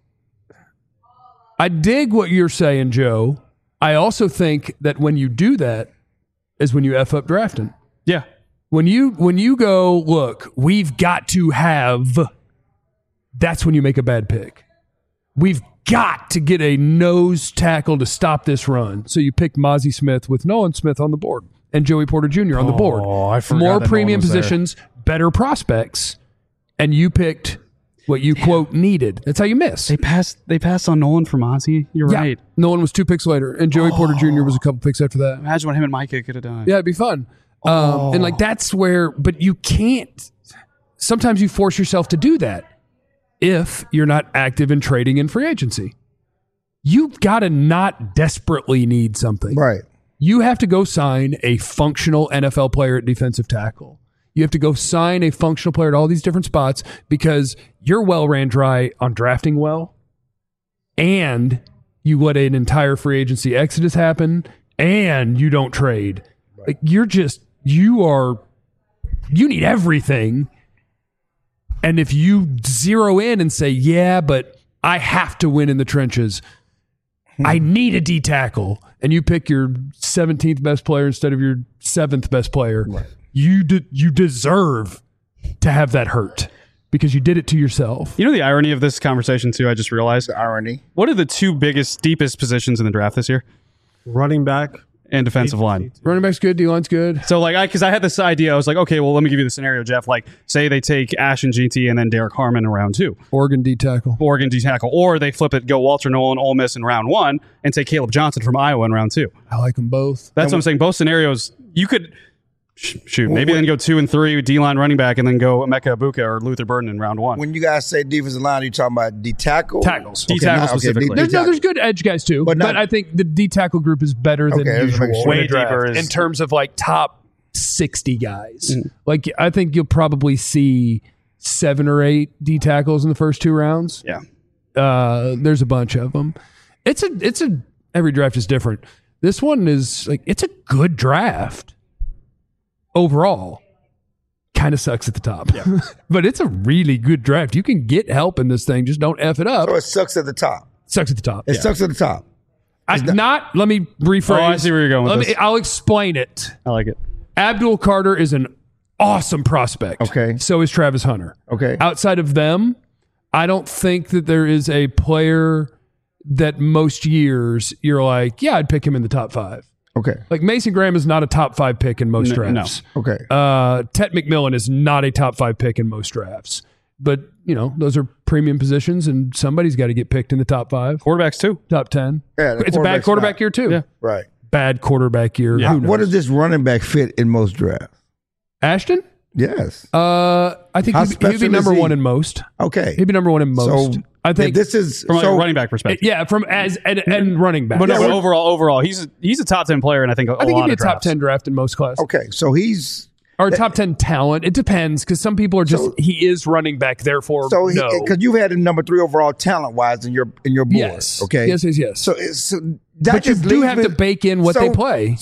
I dig what you're saying, Joe. I also think that when you do that is when you F up drafting. Yeah. When you go, look, we've got to have... That's when you make a bad pick. We've got to get a nose tackle to stop this run. So you picked Mozzie Smith with Nolan Smith on the board and Joey Porter Jr. on the board. Oh, I forgot. More premium positions, better prospects, and you picked what you quote needed. That's how you miss. They passed on Nolan for Mozzie. You're right. Nolan was 2 picks later, and Joey Porter Jr. was a couple picks after that. Imagine what him and Micah could have done. Yeah, it'd be fun. And like that's where, but you can't. Sometimes you force yourself to do that. If you're not active in trading in free agency, you've got to not desperately need something. Right. You have to go sign a functional NFL player at defensive tackle. You have to go sign a functional player at all these different spots because your well ran dry on drafting well, and you let an entire free agency exodus happen, and you don't trade. Right. Like you need everything. And if you zero in and say, yeah, but I have to win in the trenches, I need a D tackle, and you pick your 17th best player instead of your 7th best player, right. You deserve to have that hurt because you did it to yourself. You know the irony of this conversation, too, I just realized? The irony. What are the 2 biggest, deepest positions in the draft this year? Running back. And defensive line. Running back's good, D-line's good. So, because I had this idea, I was like, okay, well, let me give you the scenario, Jeff. Like, say they take Ashton Jeanty and then Derek Harmon in round 2. Oregon D-tackle. Or they flip it, go Walter Nolan, Ole Miss in round 1, and take Caleb Johnson from Iowa in round 2. I like them both. That's what I'm saying. Both scenarios, you could... Shoot, maybe then go 2 and 3 with D-line running back, and then go Emeka Egbuka or Luther Burden in round 1. When you guys say defensive line, are you talking about D-tackle? Tackles. D-tackle specifically. There's good edge guys too, but I think the D-tackle group is better than usual. Way deeper in terms of like top 60 guys. Like I think you'll probably see 7 or 8 D-tackles in the first 2 rounds. Yeah. There's a bunch of them. Every draft is different. This one is like, it's a good draft. Overall, kind of sucks at the top. Yeah. But it's a really good draft. You can get help in this thing. Just don't F it up. So it sucks at the top. Sucks at the top. It sucks at the top. Let me rephrase. Oh, I see where you're going with this. I'll explain it. I like it. Abdul Carter is an awesome prospect. Okay. So is Travis Hunter. Okay. Outside of them, I don't think that there is a player that most years you're like, yeah, I'd pick him in the top 5. Okay. Like Mason Graham is not a top 5 pick in most drafts. No. Okay. Tet McMillan is not a top 5 pick in most drafts. But, those are premium positions, and somebody's got to get picked in the top 5. Quarterbacks, too. Top 10. Yeah, it's a bad quarterback year, too. Yeah. Right. Bad quarterback year. Yeah. What does this running back fit in most drafts? Ashton? Yes. I think he'd be number 1 in most. Okay. He'd be number 1 in most. So, I think this is from a running back perspective. Yeah, from and running back. But overall, he's a top 10 player, and I think he'd be a top 10 draft in most classes. Okay, so he's or top 10 talent. It depends because some people are just he is running back, therefore because you had him number 3 overall talent wise in your board. Yes. Okay. Yes. So that but you do have to bake in what they play.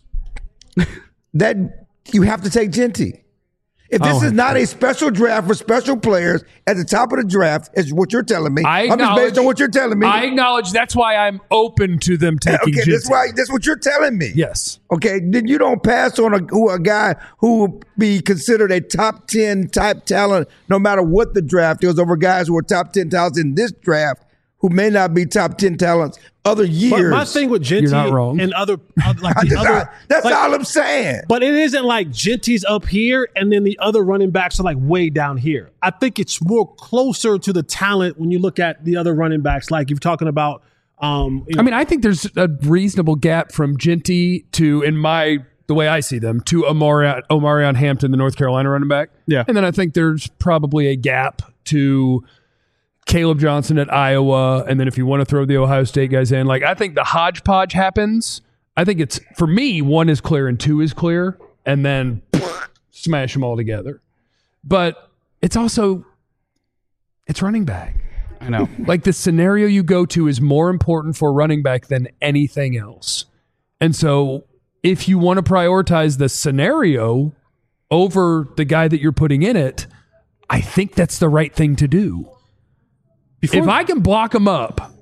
That you have to take Genty. If this is not a special draft for special players at the top of the draft, is what you're telling me. I'm just based on what you're telling me. I acknowledge that's why I'm open to them taking Genty. That's what you're telling me. Yes. Okay, then you don't pass on a guy who will be considered a top 10 type talent no matter what the draft is over guys who are top 10 talents in this draft who may not be top 10 talents other years. But my thing with Genty and other that's all I'm saying. But it isn't like Genty's up here and then the other running backs are like way down here. I think it's more closer to the talent when you look at the other running backs. Like you're talking about. I think there's a reasonable gap from Genty to, the way I see them, to Omarion Hampton, the North Carolina running back. Yeah. And then I think there's probably a gap to Caleb Johnson at Iowa, and then if you want to throw the Ohio State guys in, like I think the hodgepodge happens. I think it's, for me, 1 is clear and 2 is clear, and then smash them all together. But it's also, it's running back. I know. Like the scenario you go to is more important for running back than anything else. And so if you want to prioritize the scenario over the guy that you're putting in it, I think that's the right thing to do. If I can block him up,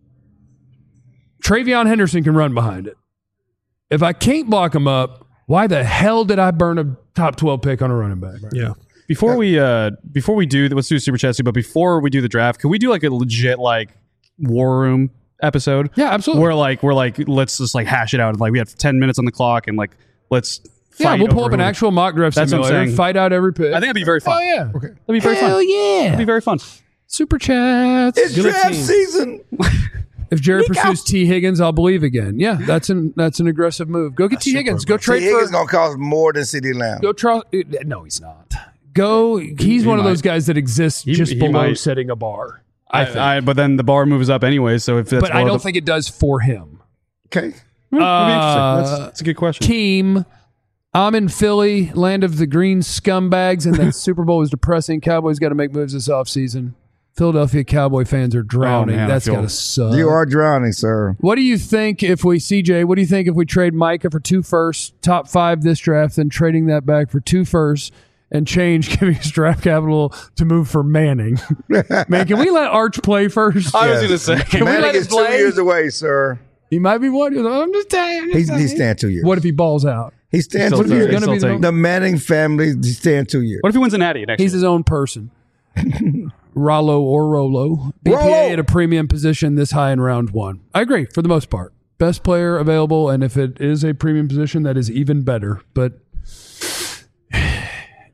Travion Henderson can run behind it. If I can't block him up, why the hell did I burn a top 12 pick on a running back? Yeah. Before we do, let's do Super Chats, but before we do the draft, could we do like a legit like war room episode? Yeah, absolutely. We're like let's just like hash it out. Like we have 10 minutes on the clock and like let's fight. We'll pull up an actual mock draft simulator, fight out every pick. I think it'd be very fun. Oh yeah. Okay. That'd be very fun. Hell yeah. It'd be very fun. Super Chats. It's draft season. If Jared pursues T. Higgins, I'll believe again. Yeah, that's an aggressive move. Go get T. Higgins. Go trade T. Higgins going to cost more than CeeDee Lamb. No, he's not. He's one of those guys that exists just below setting a bar. But then the bar moves up anyway. So if that's but I don't think it does for him. Okay. That's a good question. Team. I'm in Philly, land of the green scumbags, and that Super Bowl is depressing. Cowboys got to make moves this offseason. Philadelphia Cowboy fans are drowning. That's got to suck. You are drowning, sir. What do you think if we trade Micah for 2 firsts, top 5 this draft, then trading that back for 2 firsts and giving us draft capital to move for Manning? Man, can we let Arch play first? I was going to say. Manning is 2 years away, sir. He might be one. I'm just telling you. He's staying 2 years. What if he balls out? He stands 2 years. The Manning family, he's staying 2 years. What if he wins an Natty next year? He's his own person. Rollo or Rolo. BPA at a premium position this high in round 1. I agree for the most part. Best player available, and if it is a premium position, that is even better. But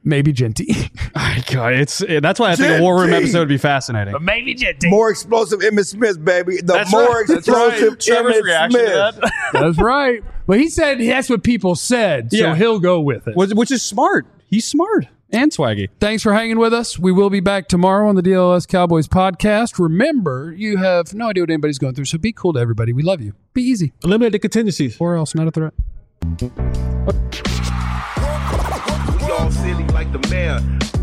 Maybe Genty. God, that's why I think a War Room episode would be fascinating. But maybe Genty. More explosive Emmitt Smith, baby. That's Explosive Trevor's Emmitt reaction Smith. to that. That's right. But he said that's what people said, so he'll go with it. Which is smart. He's smart and swaggy. Thanks for hanging with us. We will be back tomorrow on the DLS Cowboys podcast. Remember, you have no idea what anybody's going through, so be cool to everybody. We love you. Be easy. Eliminate the contingencies. Or else, not a threat. We all silly like the mayor.